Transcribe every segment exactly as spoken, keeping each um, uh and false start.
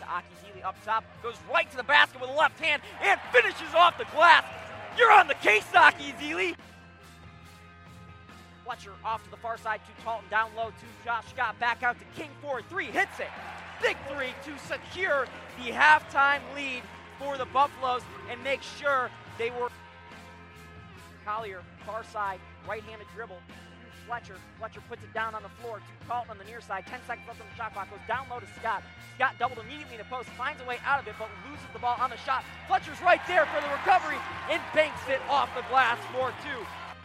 Aki Zealy up top, goes right to the basket with a left hand and finishes off the glass. You're on the case, Aki Zealy. Fletcher off to the far side to Talton, down low to Josh Scott, back out to King for three, hits it. Big three to secure the halftime lead for the Buffaloes and make sure they were. Collier, far side, right-handed dribble. Fletcher. Fletcher puts it down on the floor to Talton on the near side. Ten seconds left on the shot clock. Goes down low to Scott. Scott doubled immediately in the post. Finds a way out of it, but loses the ball on the shot. Fletcher's right there for the recovery and banks it off the glass for two.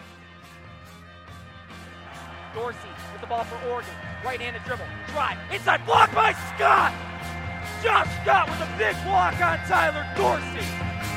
Dorsey with the ball for Oregon. Right-handed dribble. Drive. Inside block by Scott. Josh Scott with a big block on Tyler Dorsey.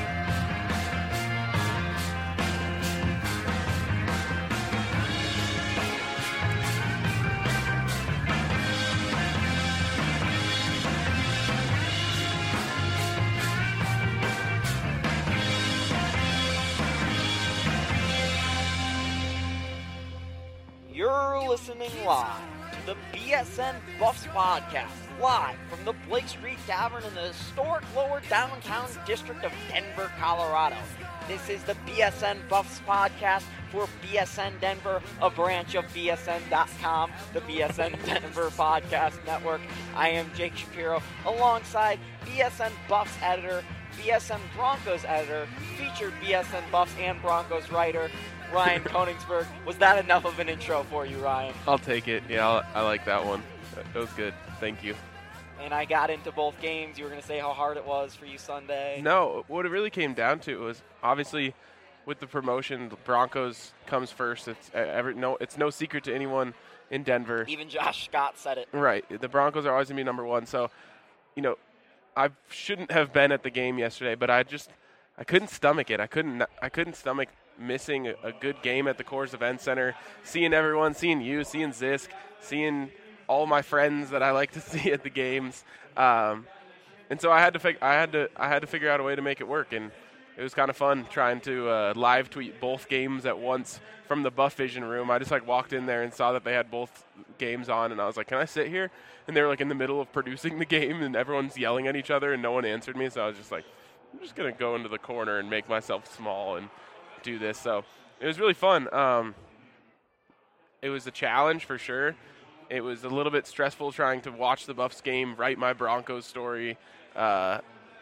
You're listening live to the B S N Buffs podcast, live from the Blake Street Tavern in the historic lower downtown district of Denver, Colorado. This is the B S N Buffs podcast for B S N Denver, a branch of B S N dot com, the B S N Denver Podcast Network. I am Jake Shapiro, alongside B S N Buffs editor, B S N Broncos editor, featured B S N Buffs and Broncos writer, Ryan Koenigsberg. Was that enough of an intro for you, Ryan? I'll take it. Yeah, I'll, I like that one. That was good. Thank you. And I got into both games. You were going to say how hard it was for you Sunday. No, what it really came down to was obviously with the promotion, the Broncos comes first. It's uh, every, no, it's no secret to anyone in Denver. Even Josh Scott said it. Right. The Broncos are always going to be number one. So, you know, I shouldn't have been at the game yesterday, but I just I couldn't stomach it. I couldn't I couldn't stomach missing a, a good game at the Coors Event Center, seeing everyone, seeing you, seeing Zisk, seeing all my friends that I like to see at the games, um, and so I had to fig- I had to I had to figure out a way to make it work, and it was kind of fun trying to uh, live tweet both games at once from the Buff Vision room. I just like walked in there and saw that they had both games on, and I was like, "Can I sit here?" And they were like in the middle of producing the game, and everyone's yelling at each other, and no one answered me. So I was just like, "I'm just gonna go into the corner and make myself small and do this." So it was really fun. Um, it was a challenge for sure. It was a little bit stressful trying to watch the Buffs game, write my Broncos story, uh,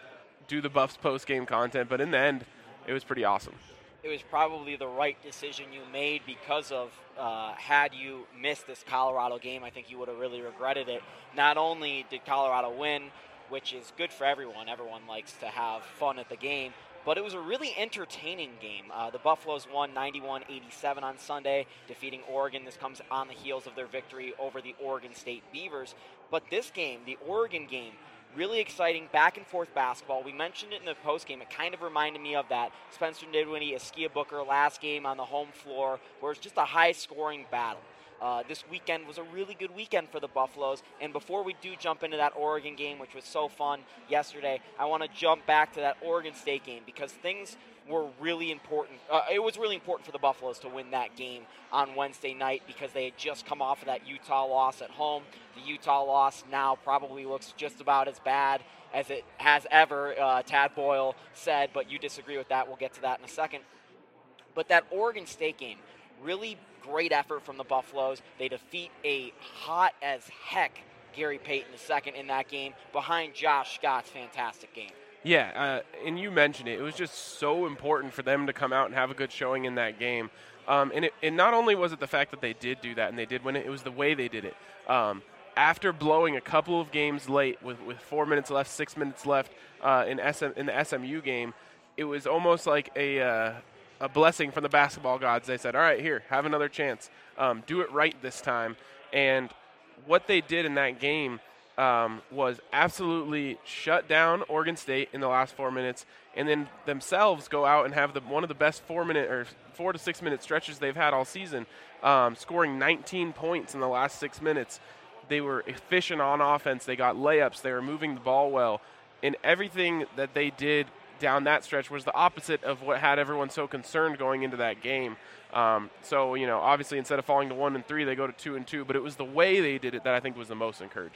do the Buffs post-game content, but in the end, it was pretty awesome. It was probably the right decision you made because of uh, had you missed this Colorado game, I think you would have really regretted it. Not only did Colorado win, which is good for everyone. Everyone likes to have fun at the game. But it was a really entertaining game. Uh, the Buffaloes won ninety-one eighty-seven on Sunday, defeating Oregon. This comes on the heels of their victory over the Oregon State Beavers. But this game, the Oregon game, really exciting back-and-forth basketball. We mentioned it in the postgame. It kind of reminded me of that Spencer Dinwiddie, Askia Booker last game on the home floor, where it's just a high-scoring battle. Uh, this weekend was a really good weekend for the Buffaloes. And before we do jump into that Oregon game, which was so fun yesterday, I want to jump back to that Oregon State game because things were really important. Uh, it was really important for the Buffaloes to win that game on Wednesday night because they had just come off of that Utah loss at home. The Utah loss now probably looks just about as bad as it has ever, uh, Tad Boyle said, but you disagree with that. We'll get to that in a second. But that Oregon State game, really great effort from the Buffaloes. They defeat a hot as heck Gary Payton the second in that game behind Josh Scott's fantastic game. Yeah, uh, and you mentioned it. It was just so important for them to come out and have a good showing in that game. Um, and, it, and not only was it the fact that they did do that and they did win it, it was the way they did it. Um, after blowing a couple of games late with, with four minutes left, six minutes left uh, in, S M, in the S M U game, it was almost like a uh, – a blessing from the basketball gods. They said, all right, here, have another chance. Um, do it right this time. And what they did in that game um, was absolutely shut down Oregon State in the last four minutes and then themselves go out and have the one of the best four-minute or four- to six-minute stretches they've had all season, um, scoring nineteen points in the last six minutes. They were efficient on offense. They got layups. They were moving the ball well. And everything that they did down that stretch was the opposite of what had everyone so concerned going into that game. Um, so, you know, obviously instead of falling to one and three, they go to two and two, but it was the way they did it that I think was the most encouraging.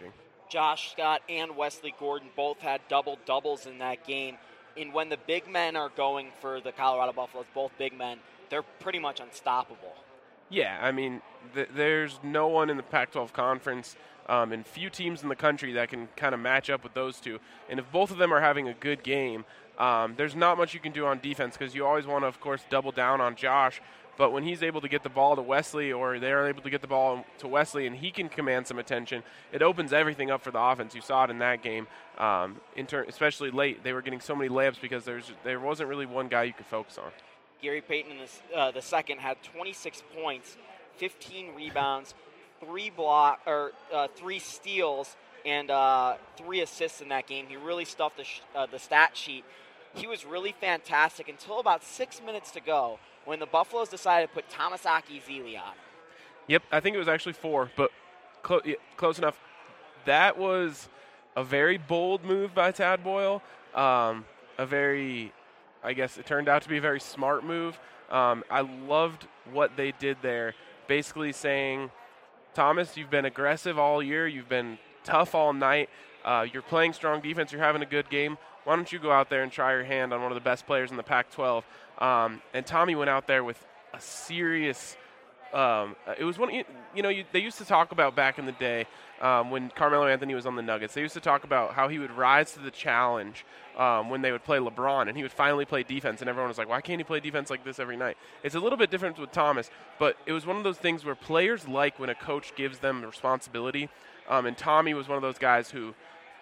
Josh Scott and Wesley Gordon both had double-doubles in that game. And when the big men are going for the Colorado Buffaloes, both big men, they're pretty much unstoppable. Yeah, I mean, th- there's no one in the Pac twelve conference um, and few teams in the country that can kind of match up with those two. And if both of them are having a good game, um, there's not much you can do on defense because you always want to, of course, double down on Josh. But when he's able to get the ball to Wesley or they're able to get the ball to Wesley and he can command some attention, it opens everything up for the offense. You saw it in that game, um, in ter- especially late. They were getting so many layups because there's there wasn't really one guy you could focus on. Gary Payton in this, uh, the second had twenty-six points, fifteen rebounds, three block or uh, three steals, and uh, three assists in that game. He really stuffed the, sh- uh, the stat sheet. He was really fantastic until about six minutes to go when the Buffaloes decided to put Tomasaki Zili on. Yep, I think it was actually four, but clo- yeah, close enough. That was a very bold move by Tad Boyle. Um, a very, I guess it turned out to be a very smart move. Um, I loved what they did there, basically saying, Thomas, you've been aggressive all year. You've been tough all night. Uh, you're playing strong defense. You're having a good game. Why don't you go out there and try your hand on one of the best players in the Pac twelve? Um, and Tommy went out there with a serious um, – it was one – you know, you, they used to talk about back in the day um, when Carmelo Anthony was on the Nuggets. They used to talk about how he would rise to the challenge um, when they would play LeBron, and he would finally play defense, and everyone was like, why can't he play defense like this every night? It's a little bit different with Thomas, but it was one of those things where players like when a coach gives them responsibility, um, and Tommy was one of those guys who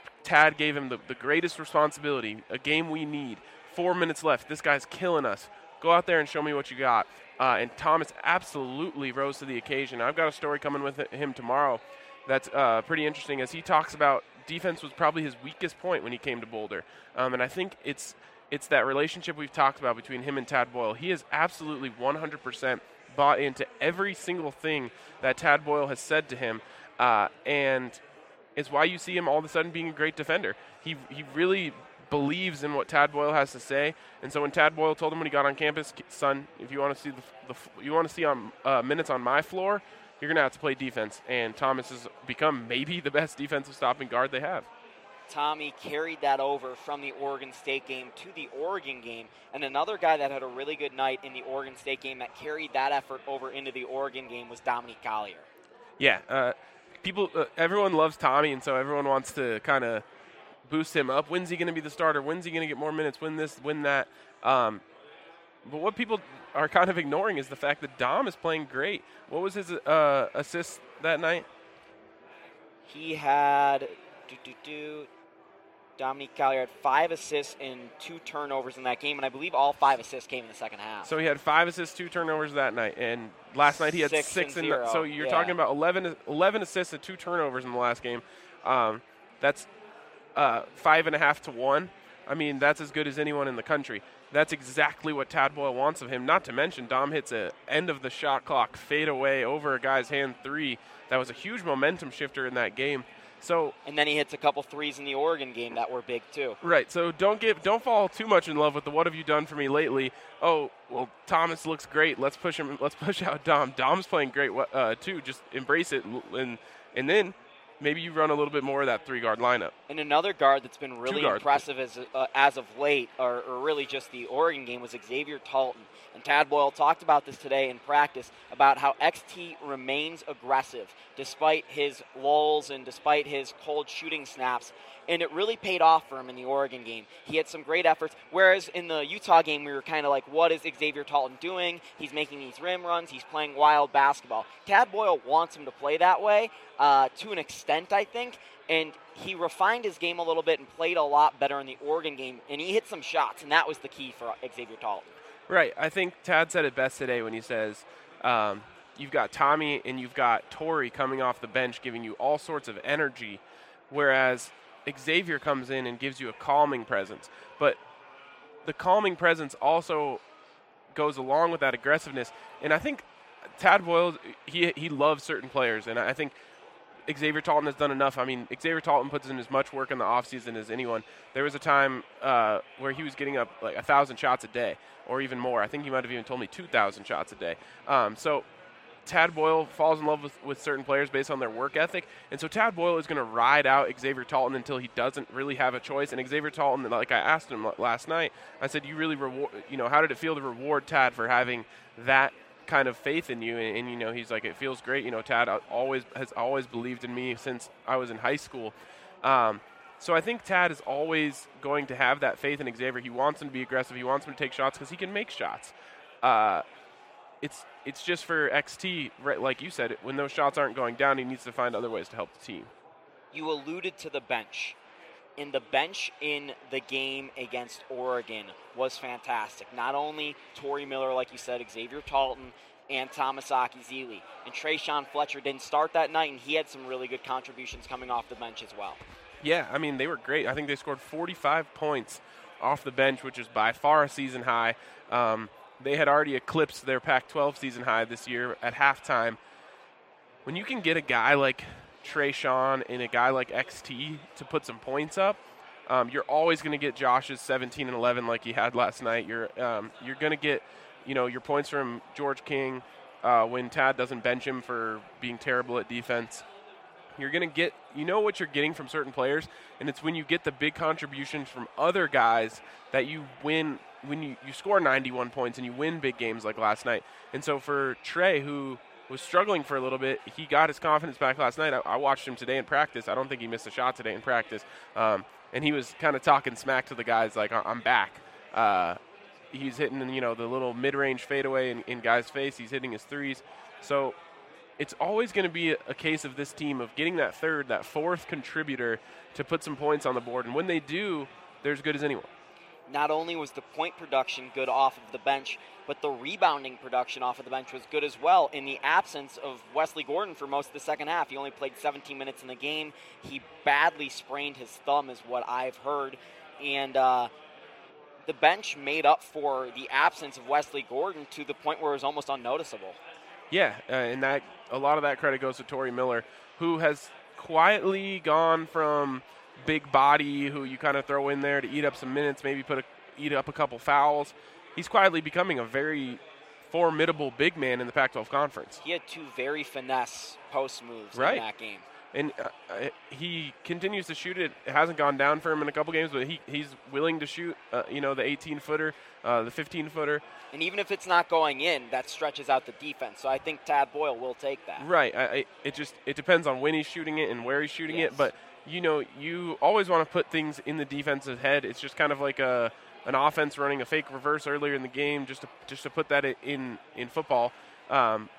Tad gave him the, the greatest responsibility, a game we need, four minutes left, this guy's killing us. Go out there and show me what you got. Uh, and Thomas absolutely rose to the occasion. I've got a story coming with him tomorrow that's uh, pretty interesting as he talks about defense was probably his weakest point when he came to Boulder. Um, and I think it's it's that relationship we've talked about between him and Tad Boyle. He is absolutely one hundred percent bought into every single thing that Tad Boyle has said to him. Uh, and it's why you see him all of a sudden being a great defender. He he really believes in what Tad Boyle has to say, and so when Tad Boyle told him when he got on campus, son, if you want to see the, the you want to see on uh, minutes on my floor, you're gonna have to play defense. And Thomas has become maybe the best defensive stopping guard they have. Tommy carried that over from the Oregon State game to the Oregon game, and another guy that had a really good night in the Oregon State game that carried that effort over into the Oregon game was Dominique Collier. Yeah, uh, people, uh, everyone loves Tommy, and so everyone wants to kind of boost him up. When's he going to be the starter? When's he going to get more minutes? Win this, win that. Um, but what people are kind of ignoring is the fact that Dom is playing great. What was his uh, assist that night? He had do do do. Dominique Collier had five assists and two turnovers in that game, and I believe all five assists came in the second half. So he had five assists, two turnovers that night, and last night he had six. six. And in zero. The, so you're yeah. talking about eleven, eleven assists and two turnovers in the last game. Um, that's uh, five and a half to one. I mean, that's as good as anyone in the country. That's exactly what Tad Boyle wants of him. Not to mention, Dom hits a end of the shot clock fade away over a guy's hand three. That was a huge momentum shifter in that game. So and then he hits a couple threes in the Oregon game that were big too. Right. So don't give, don't fall too much in love with the "what have you done for me lately?" Oh, well, Thomas looks great. Let's push him. Let's push out Dom. Dom's playing great uh, too. Just embrace it, and and then maybe you run a little bit more of that three guard lineup. And another guard that's been really guards. impressive as uh, as of late, or, or really just the Oregon game, was Xavier Talton. And Tad Boyle talked about this today in practice about how X T remains aggressive despite his lulls and despite his cold shooting snaps. And it really paid off for him in the Oregon game. He had some great efforts, whereas in the Utah game we were kind of like, what is Xavier Talton doing? He's making these rim runs. He's playing wild basketball. Tad Boyle wants him to play that way uh, to an extent, I think. And he refined his game a little bit and played a lot better in the Oregon game. And he hit some shots, and that was the key for Xavier Talton. Right. I think Tad said it best today when he says um, you've got Tommy and you've got Torrey coming off the bench giving you all sorts of energy, whereas Xavier comes in and gives you a calming presence. But the calming presence also goes along with that aggressiveness. And I think Tad Boyle, he, he loves certain players, and I think Xavier Talton has done enough. I mean, Xavier Talton puts in as much work in the offseason as anyone. There was a time uh, where he was getting up like one thousand shots a day or even more. I think he might have even told me two thousand shots a day. Um, so Tad Boyle falls in love with, with certain players based on their work ethic. And so Tad Boyle is going to ride out Xavier Talton until he doesn't really have a choice. And Xavier Talton, like I asked him last night, I said, you really reward, you know, how did it feel to reward Tad for having that kind of faith in you? And, and, you know, he's like, it feels great. You know, Tad always has always believed in me since I was in high school. Um, so I think Tad is always going to have that faith in Xavier. He wants him to be aggressive. He wants him to take shots because he can make shots. Uh, it's it's just for X T, right, like you said, when those shots aren't going down, he needs to find other ways to help the team. You alluded to the bench. And the bench in the game against Oregon was fantastic. Not only Tory Miller, like you said, Xavier Talton, and Tomasaki Zealy. And Trayshawn Fletcher didn't start that night, and he had some really good contributions coming off the bench as well. Yeah, I mean, they were great. I think they scored forty-five points off the bench, which is by far a season high. Um, they had already eclipsed their Pac twelve season high this year at halftime. When you can get a guy like Trayshawn and a guy like X T to put some points up, um, you're always going to get Josh's seventeen and eleven like he had last night. You're um, you're going to get, you know, your points from George King uh, when Tad doesn't bench him for being terrible at defense. You're going to get, you know what you're getting from certain players, and it's when you get the big contributions from other guys that you win, when you, you score ninety-one points and you win big games like last night. And so for Trey, who was struggling for a little bit, he got his confidence back last night. I, I watched him today in practice. I don't think he missed a shot today in practice. Um, and he was kind of talking smack to the guys like, I'm back. Uh, he's hitting, you know, the little mid-range fadeaway in, in guys' face. He's hitting his threes. So it's always going to be a, a case of this team of getting that third, that fourth contributor to put some points on the board. And when they do, they're as good as anyone. Not only was the point production good off of the bench, but the rebounding production off of the bench was good as well. In the absence of Wesley Gordon for most of the second half, he only played seventeen minutes in the game. He badly sprained his thumb is what I've heard. And uh, the bench made up for the absence of Wesley Gordon to the point where it was almost unnoticeable. Yeah, uh, and that a lot of that credit goes to Tory Miller, who has quietly gone from big body who you kind of throw in there to eat up some minutes, maybe put a, eat up a couple fouls. He's quietly becoming a very formidable big man in the Pac twelve conference. He had two very finesse post moves right. in that game. And uh, he continues to shoot it. It hasn't gone down for him in a couple games, but he, he's willing to shoot, uh, you know, the eighteen-footer, uh, the fifteen-footer. And even if it's not going in, that stretches out the defense. So I think Tad Boyle will take that. Right. I, I, it just it depends on when he's shooting it and where he's shooting yes. it. But, you know, you always want to put things in the defense's head. It's just kind of like a an offense running a fake reverse earlier in the game just to, just to put that in, in football. Um,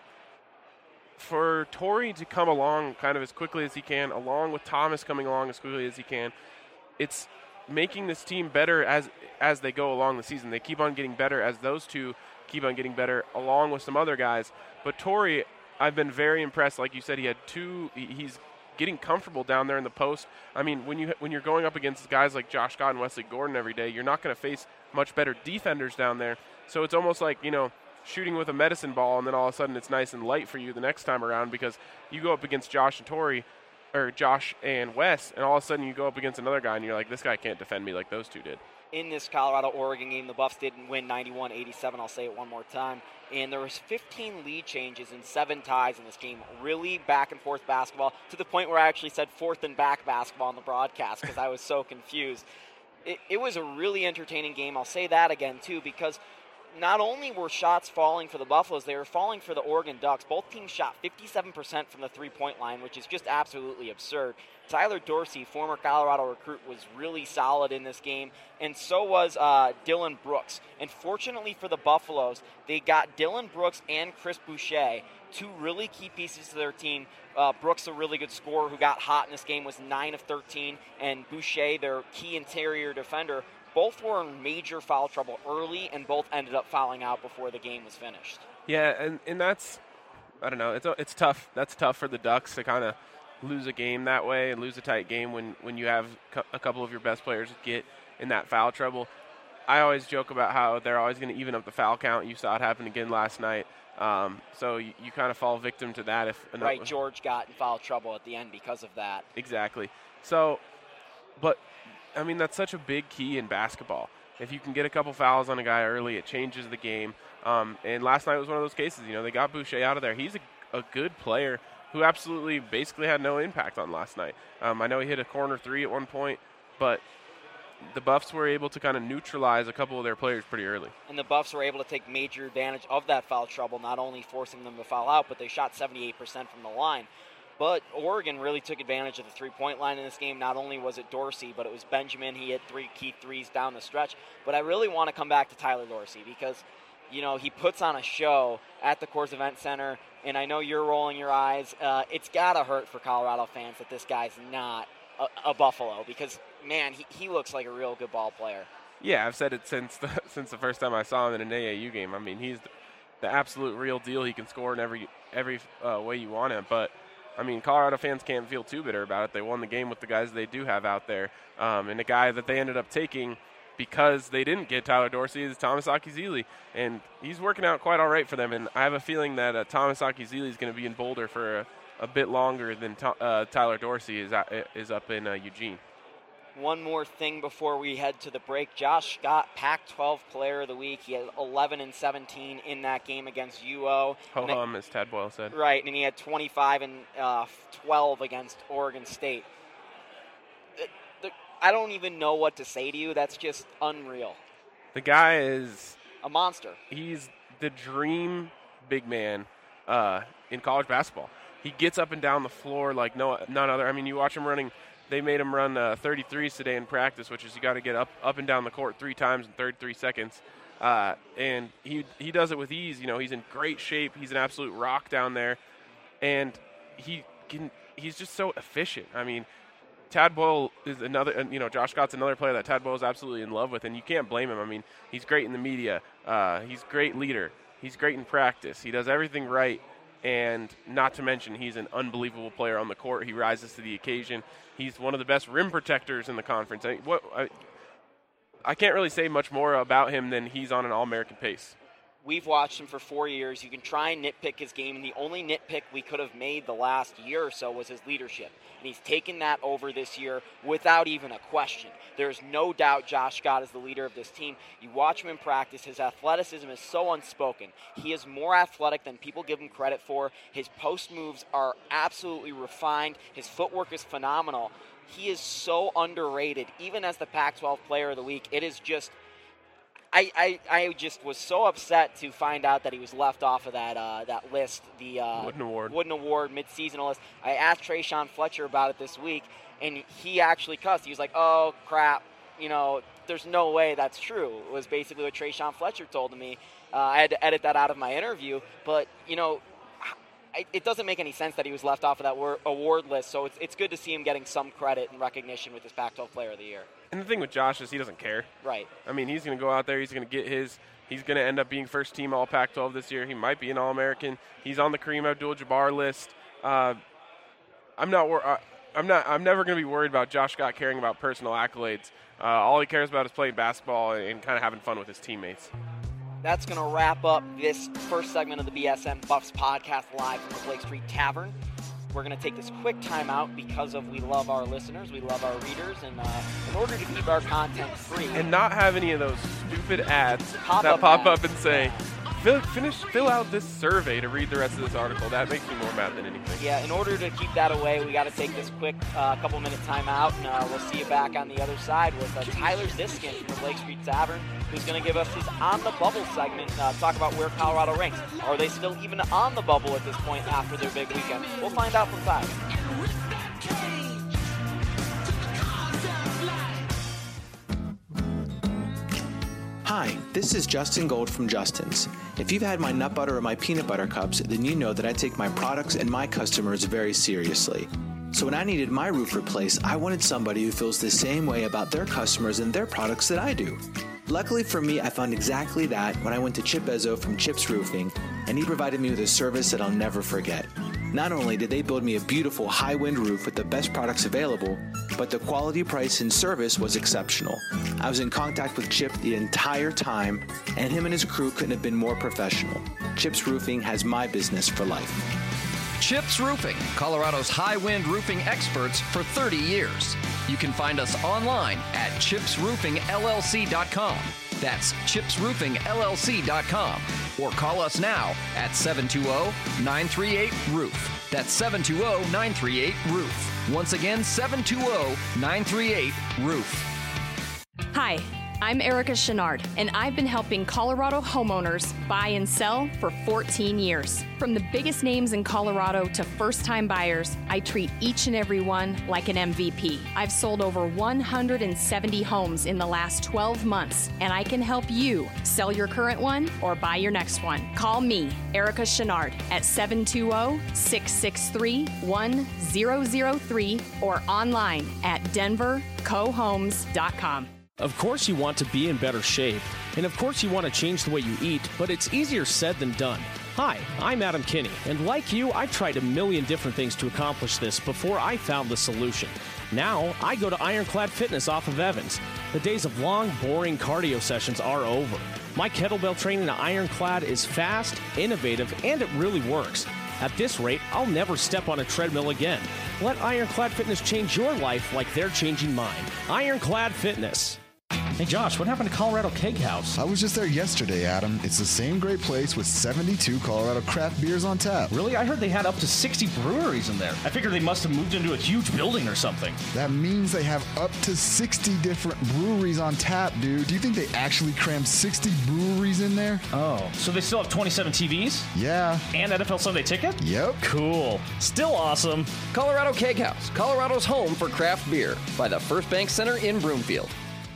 for Tory to come along kind of as quickly as he can, along with Thomas coming along as quickly as he can, it's making this team better as as they go along the season. They keep on getting better as those two keep on getting better, along with some other guys. But Tory, I've been very impressed. Like you said, he had two. He's getting comfortable down there in the post. I mean, when you when you're going up against guys like Josh Scott and Wesley Gordon every day, you're not going to face much better defenders down there. So it's almost like, you know, shooting with a medicine ball, and then all of a sudden it's nice and light for you the next time around, because you go up against Josh and Tory, or Josh and Wes, and all of a sudden you go up against another guy and you're like, this guy can't defend me like those two did. In this Colorado-Oregon game, the Buffs didn't win ninety-one eighty-seven. I'll say it one more time. And there was fifteen lead changes and seven ties in this game. Really back-and-forth basketball, to the point where I actually said fourth and back basketball on the broadcast because I was so confused. It, it was a really entertaining game. I'll say that again, too, because not only were shots falling for the Buffaloes, they were falling for the Oregon Ducks. Both teams shot fifty-seven percent from the three-point line, which is just absolutely absurd. Tyler Dorsey, former Colorado recruit, was really solid in this game, and so was uh, Dylan Brooks. And fortunately for the Buffaloes, they got Dylan Brooks and Chris Boucher, two really key pieces to their team. Uh, Brooks, a really good scorer who got hot in this game, was nine of thirteen, and Boucher, their key interior defender, both were in major foul trouble early, and both ended up fouling out before the game was finished. Yeah, and, and that's, I don't know, it's it's tough. That's tough for the Ducks to kind of lose a game that way and lose a tight game when, when you have a couple of your best players get in that foul trouble. I always joke about how they're always going to even up the foul count. You saw it happen again last night. Um, so you, you kind of fall victim to that. If Right, George got in foul trouble at the end because of that. Exactly. So, but, I mean, that's such a big key in basketball. If you can get a couple fouls on a guy early, it changes the game. Um, and last night was one of those cases. You know, they got Boucher out of there. He's a, a good player who absolutely basically had no impact on last night. Um, I know he hit a corner three at one point, but the Buffs were able to kind of neutralize a couple of their players pretty early. And the Buffs were able to take major advantage of that foul trouble, not only forcing them to foul out, but they shot seventy-eight percent from the line. But Oregon really took advantage of the three-point line in this game. Not only was it Dorsey, but it was Benjamin. He hit three key threes down the stretch. But I really want to come back to Tyler Dorsey because, you know, he puts on a show at the Coors Event Center, and I know you're rolling your eyes. Uh, it's got to hurt for Colorado fans that this guy's not a, a Buffalo because, man, he, he looks like a real good ball player. Yeah, I've said it since the, since the first time I saw him in an A A U game. I mean, he's the, the absolute real deal. He can score in every, every uh, way you want him, but I mean, Colorado fans can't feel too bitter about it. They won the game with the guys they do have out there. Um, and the guy that they ended up taking because they didn't get Tyler Dorsey is Thomas Akizili. And he's working out quite all right for them. And I have a feeling that uh, Thomas Akizili is going to be in Boulder for a, a bit longer than to, uh, Tyler Dorsey is, uh, is up in uh, Eugene. One more thing before we head to the break. Josh Scott, Pac twelve Player of the Week. He had eleven and seventeen in that game against U O. Ho-hum, as Tad Boyle said. Right, and he had twenty-five and twelve against Oregon State. The, the, I don't even know what to say to you. That's just unreal. The guy is a monster. He's the dream big man uh, in college basketball. He gets up and down the floor like no none other. I mean, you watch him running. They made him run uh, thirty-threes today in practice, which is you got to get up, up and down the court three times in thirty-three seconds. Uh, and he he does it with ease. You know, he's in great shape. He's an absolute rock down there. And he can he's just so efficient. I mean, Tad Boyle is another, you know, Josh Scott's another player that Tad Boyle is absolutely in love with, and you can't blame him. I mean, he's great in the media. Uh, he's a great leader. He's great in practice. He does everything right. And not to mention, he's an unbelievable player on the court. He rises to the occasion. He's one of the best rim protectors in the conference. I, what, I, I can't really say much more about him than he's on an All-American pace. We've watched him for four years. You can try and nitpick his game, and the only nitpick we could have made the last year or so was his leadership. And he's taken that over this year without even a question. There's no doubt Josh Scott is the leader of this team. You watch him in practice. His athleticism is so unspoken. He is more athletic than people give him credit for. His post moves are absolutely refined. His footwork is phenomenal. He is so underrated. Even as the Pac twelve Player of the Week, it is just I, I, I just was so upset to find out that he was left off of that uh, that list, the uh, Wooden Award, Wooden Award mid-season list. I asked Trayshawn Fletcher about it this week, and he actually cussed. He was like, "Oh crap, you know, there's no way that's true." It was basically what Trayshawn Fletcher told me. Uh, I had to edit that out of my interview, but you know, it doesn't make any sense that he was left off of that award list. So it's it's good to see him getting some credit and recognition with his Pac twelve Player of the Year. And the thing with Josh is he doesn't care. Right. I mean, he's going to go out there. He's going to get his. He's going to end up being first team All Pac twelve this year. He might be an All-American. He's on the Kareem Abdul-Jabbar list. Uh, I'm not. Wor- I'm not. I'm never going to be worried about Josh Scott caring about personal accolades. Uh, all he cares about is playing basketball and, and kind of having fun with his teammates. That's going to wrap up this first segment of the B S N Buffs podcast live from the Blake Street Tavern. We're going to take this quick time out because of we love our listeners, we love our readers, and uh, in order to keep our content free. And not have any of those stupid ads pop that up pop ads. up and say, fill, finish, fill out this survey to read the rest of this article. That makes me more mad than anything. Yeah, in order to keep that away, we got to take this quick uh, couple minute time out, and uh, we'll see you back on the other side with uh, Tyler Ziskin from the Blake Street Tavern, who's going to give us his On the Bubble segment, uh, talk about where Colorado ranks. Are they still even on the bubble at this point after their big weekend? We'll find out from Tyler. Hi, this is Justin Gold from Justin's. If you've had my nut butter or my peanut butter cups, then you know that I take my products and my customers very seriously. So when I needed my roof replaced, I wanted somebody who feels the same way about their customers and their products that I do. Luckily for me, I found exactly that when I went to Chip Ezzo from Chip's Roofing, and he provided me with a service that I'll never forget. Not only did they build me a beautiful high-wind roof with the best products available, but the quality, price, and service was exceptional. I was in contact with Chip the entire time, and him and his crew couldn't have been more professional. Chip's Roofing has my business for life. Chip's Roofing, Colorado's high-wind roofing experts for thirty years. You can find us online at chips roofing l l c dot com. That's chips roofing L L C dot com. Or call us now at seven two zero, nine three eight, roof. That's seven two zero, nine three eight, roof. Once again, seven two zero, nine three eight, roof. Hi, I'm Erica Chenard, and I've been helping Colorado homeowners buy and sell for fourteen years. From the biggest names in Colorado to first-time buyers, I treat each and every one like an M V P. I've sold over one hundred seventy homes in the last twelve months, and I can help you sell your current one or buy your next one. Call me, Erica Chenard, at seven two zero, six six three, one zero zero three or online at denver co homes dot com. Of course you want to be in better shape, and of course you want to change the way you eat, but it's easier said than done. Hi, I'm Adam Kinney, and like you, I've tried a million different things to accomplish this before I found the solution. Now, I go to Ironclad Fitness off of Evans. The days of long, boring cardio sessions are over. My kettlebell training at Ironclad is fast, innovative, and it really works. At this rate, I'll never step on a treadmill again. Let Ironclad Fitness change your life like they're changing mine. Ironclad Fitness. Hey Josh, what happened to Colorado Keg House? I was just there yesterday, Adam. It's the same great place with seventy-two Colorado craft beers on tap. Really? I heard they had up to sixty breweries in there. I figured they must have moved into a huge building or something. That means they have up to sixty different breweries on tap, dude. Do you think they actually crammed sixty breweries in there? Oh, so they still have twenty-seven T Vs? Yeah. And N F L Sunday Ticket? Yep. Cool. Still awesome. Colorado Keg House, Colorado's home for craft beer, by the First Bank Center in Broomfield.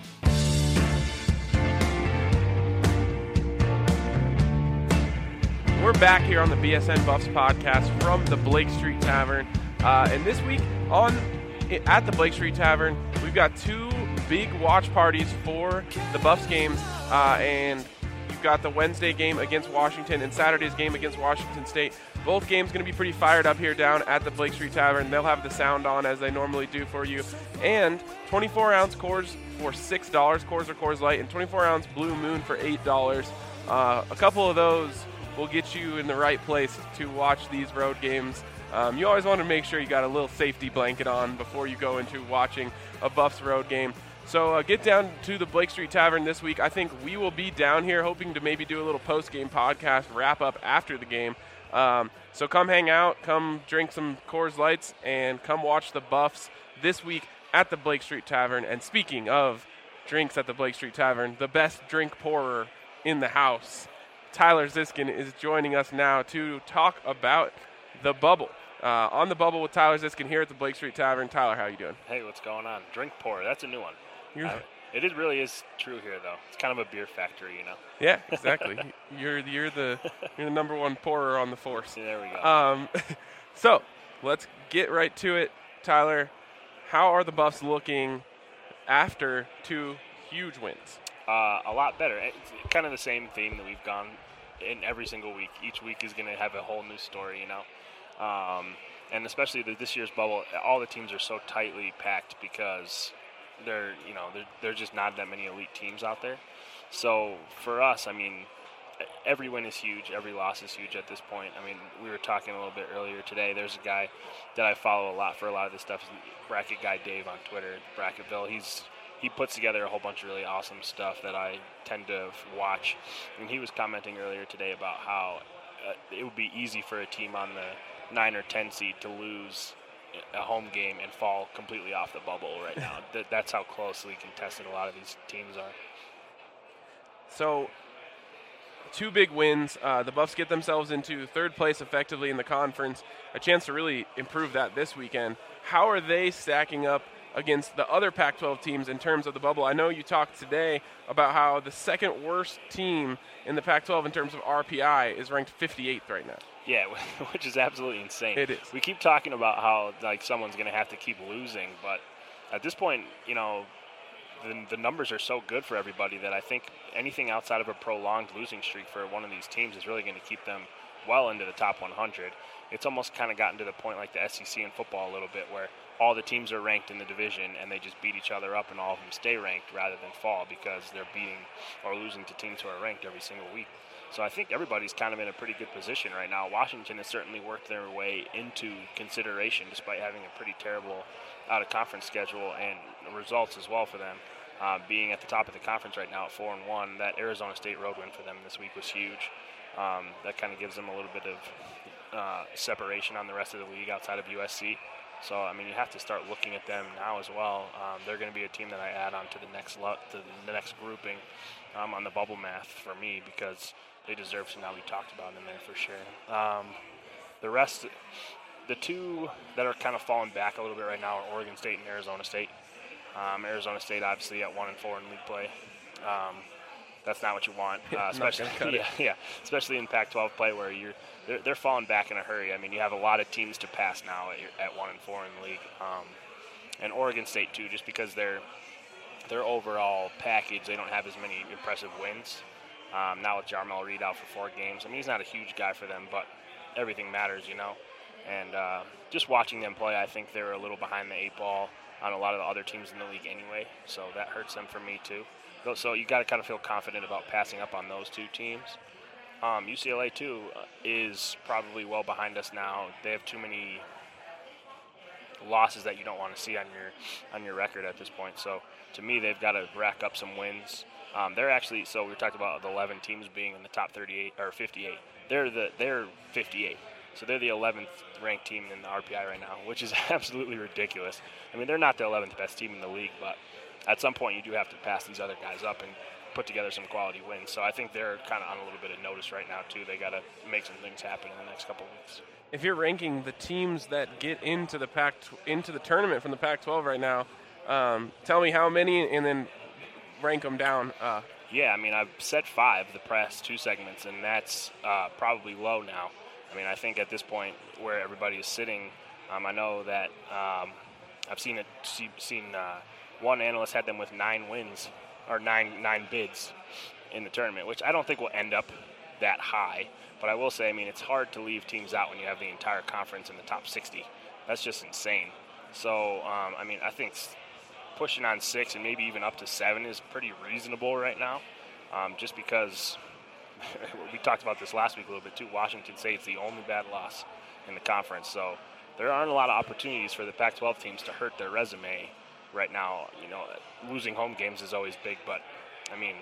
We're back here on the B S N Buffs podcast from the Blake Street Tavern. Uh, and this week on at the Blake Street Tavern, we've got two big watch parties for the Buffs games. Uh, and you've got the Wednesday game against Washington and Saturday's game against Washington State. Both games going to be pretty fired up here down at the Blake Street Tavern. They'll have the sound on as they normally do for you. And twenty-four ounce Coors for six dollars, Coors or Coors Light, and twenty-four ounce Blue Moon for eight dollars. Uh, a couple of those will get you in the right place to watch these road games. Um, you always want to make sure you got a little safety blanket on before you go into watching a Buffs road game. So uh, get down to the Blake Street Tavern this week. I think we will be down here hoping to maybe do a little post-game podcast wrap-up after the game. Um, so come hang out, come drink some Coors Lights, and come watch the Buffs this week at the Blake Street Tavern. And speaking of drinks at the Blake Street Tavern, the best drink pourer in the house, Tyler Ziskin, is joining us now to talk about the bubble. Uh, on the bubble with Tyler Ziskin here at the Blake Street Tavern. Tyler, how are you doing? Hey, what's going on? Drink pour. That's a new one. Uh, it is, really is true here, though. It's kind of a beer factory, you know. Yeah, exactly. you're you're the you're the number one pourer on the force. Yeah, there we go. Um, so let's get right to it, Tyler. How are the Buffs looking after two huge wins? Uh, a lot better. It's kind of the same theme that we've gone in every single week. Each week is going to have a whole new story, you know. Um, and especially the, this year's bubble, all the teams are so tightly packed because they're, you know, they're, they're just not that many elite teams out there. So for us, I mean, every win is huge. Every loss is huge at this point. I mean, we were talking a little bit earlier today. There's a guy that I follow a lot for a lot of this stuff, Bracket Guy Dave on Twitter, Bracketville. He's He puts together a whole bunch of really awesome stuff that I tend to watch. And he was commenting earlier today about how uh, it would be easy for a team on the nine or ten seed to lose a home game and fall completely off the bubble right now. Th- that's how closely contested a lot of these teams are. So, two big wins. Uh, the Buffs get themselves into third place effectively in the conference. A chance to really improve that this weekend. How are they stacking up against the other Pac twelve teams in terms of the bubble? I know you talked today about how the second worst team in the Pac twelve in terms of R P I is ranked fifty-eighth right now. Yeah, which is absolutely insane. It is. We keep talking about how like someone's going to have to keep losing, but at this point, you know, the, the numbers are so good for everybody that I think anything outside of a prolonged losing streak for one of these teams is really going to keep them well into the top one hundred. It's almost kind of gotten to the point like the S E C in football a little bit where all the teams are ranked in the division and they just beat each other up and all of them stay ranked rather than fall because they're beating or losing to teams who are ranked every single week. So I think everybody's kind of in a pretty good position right now. Washington has certainly worked their way into consideration despite having a pretty terrible out-of-conference schedule and results as well for them. uh, being at the top of the conference right now at four and one, that Arizona State road win for them this week was huge. Um, that kind of gives them a little bit of uh, separation on the rest of the league outside of U S C. So, I mean, you have to start looking at them now as well. Um, they're going to be a team that I add on to the next lo- to the next grouping um, on the bubble math for me, because they deserve some now we talked about in there for sure. Um, the rest, the two that are kind of falling back a little bit right now are Oregon State and Arizona State. Um, Arizona State obviously at one and four in league play. Um, that's not what you want, uh, especially yeah, yeah, especially in Pac twelve play where you're they're, they're falling back in a hurry. I mean, you have a lot of teams to pass now at, at one and four in the league, um, and Oregon State too, just because their their overall package, they don't have as many impressive wins. Um, now with Jarmel Reed out for four games, I mean, he's not a huge guy for them, but everything matters, you know. And uh, just watching them play, I think they're a little behind the eight ball on a lot of the other teams in the league anyway, so that hurts them for me too. So you got to kind of feel confident about passing up on those two teams. Um, U C L A too uh, is probably well behind us now. They have too many losses that you don't want to see on your on your record at this point. So to me, they've got to rack up some wins. Um, they're actually so we talked about the eleven teams being in the top thirty-eight or fifty-eight. They're the they're fifty-eight. So they're the eleventh ranked team in the R P I right now, which is absolutely ridiculous. I mean, they're not the eleventh best team in the league, but at some point you do have to pass these other guys up and put together some quality wins. So I think they're kind of on a little bit of notice right now too. They got to make some things happen in the next couple of weeks. If you're ranking the teams that get into the Pac into the tournament from the Pac twelve right now, um, tell me how many, and then rank them down. Uh, yeah, I mean, I've said five, the press, two segments, and that's uh, probably low now. I mean, I think at this point where everybody is sitting, um, I know that um, I've seen it. See, seen uh, one analyst had them with nine wins or nine nine bids in the tournament, which I don't think will end up that high. But I will say, I mean, it's hard to leave teams out when you have the entire conference in the top sixty. That's just insane. So, um, I mean, I think pushing on six and maybe even up to seven is pretty reasonable right now, um, just because we talked about this last week a little bit too. Washington State's the only bad loss in the conference, so there aren't a lot of opportunities for the Pac twelve teams to hurt their resume right now. You know, losing home games is always big, but I mean,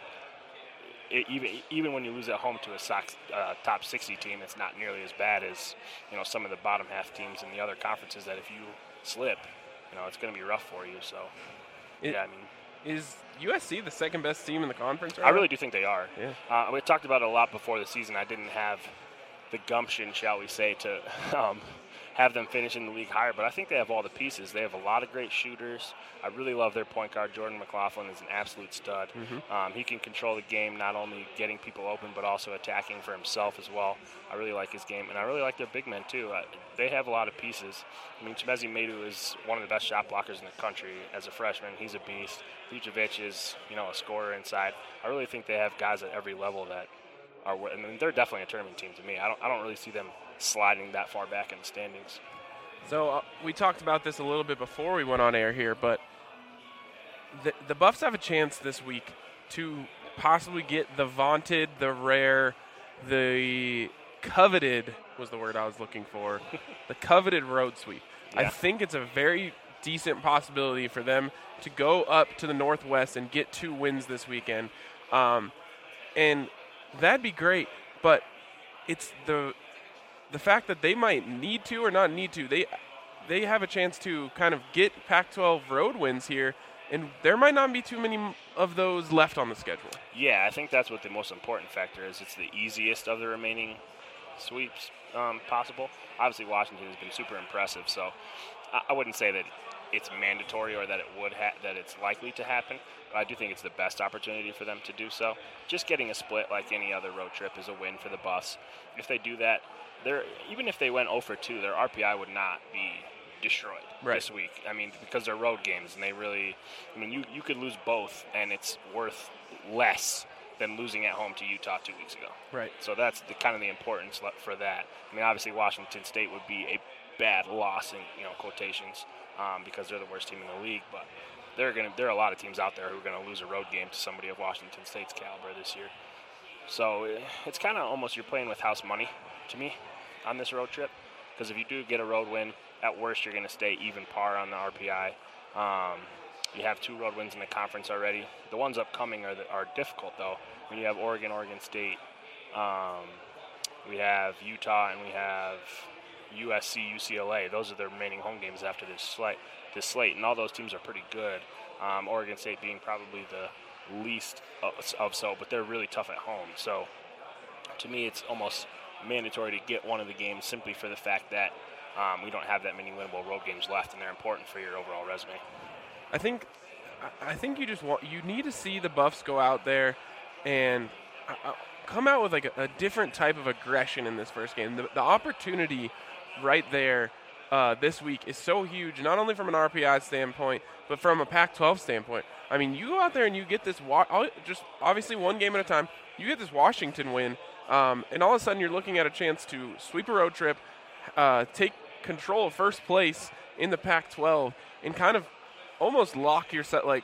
it, even even when you lose at home to a Sox, uh, top sixty team, it's not nearly as bad as, you know, some of the bottom half teams in the other conferences that if you slip, you know, it's going to be rough for you. So, it, yeah, I mean, is U S C the second best team in the conference right I now? really do think they are. Yeah. Uh, we talked about it a lot before the season. I didn't have the gumption, shall we say, to um, have them finish in the league higher, but I think they have all the pieces. They have a lot of great shooters. I really love their point guard. Jordan McLaughlin is an absolute stud. Mm-hmm. Um, he can control the game, not only getting people open, but also attacking for himself as well. I really like his game, and I really like their big men too. Uh, they have a lot of pieces. I mean, Chimezi Medu is one of the best shot blockers in the country as a freshman. He's a beast. Vucevic is, you know, a scorer inside. I really think they have guys at every level that are. I mean, they're definitely a tournament team to me. I don't. I don't really see them sliding that far back in the standings. So uh, we talked about this a little bit before we went on air here, but the, the Buffs have a chance this week to possibly get the vaunted, the rare, the coveted was the word I was looking for, the coveted road sweep. Yeah. I think it's a very decent possibility for them to go up to the Northwest and get two wins this weekend. Um, and that'd be great, but it's the the fact that they might need to or not need to. They they have a chance to kind of get Pac twelve road wins here, and there might not be too many of those left on the schedule. Yeah, I think that's what the most important factor is. It's the easiest of the remaining sweeps um, possible. Obviously, Washington has been super impressive, so I, I wouldn't say that it's mandatory or that it would ha- that it's likely to happen, but I do think it's the best opportunity for them to do so. Just getting a split like any other road trip is a win for the Buffs. If they do that, they're, even if they went oh for two, their R P I would not be destroyed right. this week. I mean, because they're road games, and they really, I mean, you, you could lose both, and it's worth less than losing at home to Utah two weeks ago. Right. So that's the kind of the importance for that. I mean, obviously Washington State would be a bad loss in, you know, quotations, um, because they're the worst team in the league, but they're gonna there are a lot of teams out there who are going to lose a road game to somebody of Washington State's caliber this year. So it's kind of almost you're playing with house money to me on this road trip, because if you do get a road win, at worst you're going to stay even par on the R P I. Um, You have two road wins in the conference already. The ones upcoming are the, are difficult, though. When you have Oregon, Oregon State, um, we have Utah, and we have U S C, U C L A. Those are the remaining home games after this slate. This slate, and all those teams are pretty good. Um, Oregon State being probably the least of, of so, but they're really tough at home. So, to me, it's almost mandatory to get one of the games simply for the fact that um, we don't have that many winnable road games left, and they're important for your overall resume. I think, I think you just want you need to see the Buffs go out there and uh, come out with like a, a different type of aggression in this first game. The, the opportunity right there uh, this week is so huge, not only from an R P I standpoint, but from a Pac twelve standpoint. I mean, you go out there and you get this wa- just obviously one game at a time. You get this Washington win, um, and all of a sudden you're looking at a chance to sweep a road trip, uh, take control of first place in the Pac twelve, and kind of almost lock yourself, like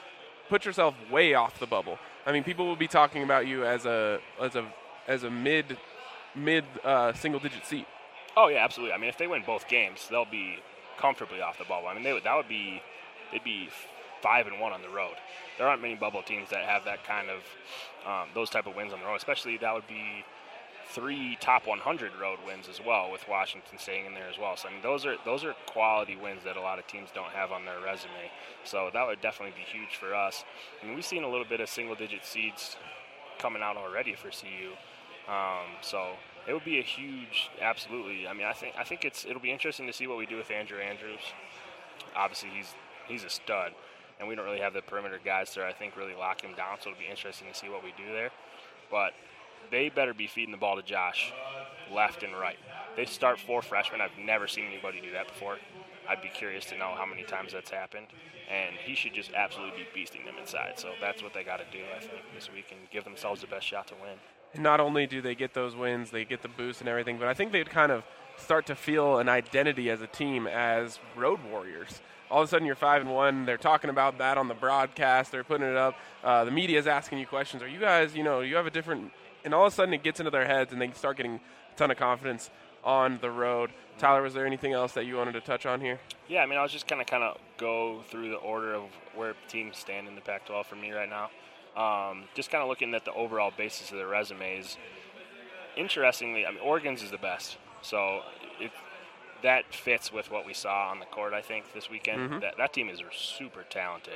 put yourself way off the bubble. I mean, people will be talking about you as a as a as a mid mid uh, single digit seed. Oh yeah, absolutely. I mean, if they win both games, they'll be comfortably off the bubble. I mean, they would that would be they'd be five and one on the road. There aren't many bubble teams that have that kind of um, those type of wins on the road. Especially that would be three top one hundred road wins as well, with Washington staying in there as well. So I mean, those are those are quality wins that a lot of teams don't have on their resume. So that would definitely be huge for us. I mean, we've seen a little bit of single-digit seeds coming out already for C U. Um, so it would be a huge, absolutely. I mean, I think I think it's it'll be interesting to see what we do with Andrew Andrews. Obviously, he's he's a stud, and we don't really have the perimeter guys there, I think, really lock him down. So it'll be interesting to see what we do there. But they better be feeding the ball to Josh left and right. They start four freshmen. I've never seen anybody do that before. I'd be curious to know how many times that's happened. And he should just absolutely be beasting them inside. So that's what they got to do, I think, this week and give themselves the best shot to win. And not only do they get those wins, they get the boost and everything, but I think they'd kind of start to feel an identity as a team as road warriors. All of a sudden you're five and one. They're talking about that on the broadcast. They're putting it up. Uh, the media's asking you questions. Are you guys, you know, you have a different – and all of a sudden it gets into their heads and they start getting a ton of confidence on the road. Tyler, was there anything else that you wanted to touch on here? Yeah, I mean, I was just going to kind of go through the order of where teams stand in the Pac twelve for me right now. Um, just kind of looking at the overall basis of their resumes. Interestingly, I mean, Oregon's is the best. So it, that fits with what we saw on the court, I think, this weekend. Mm-hmm. That, that team is super talented.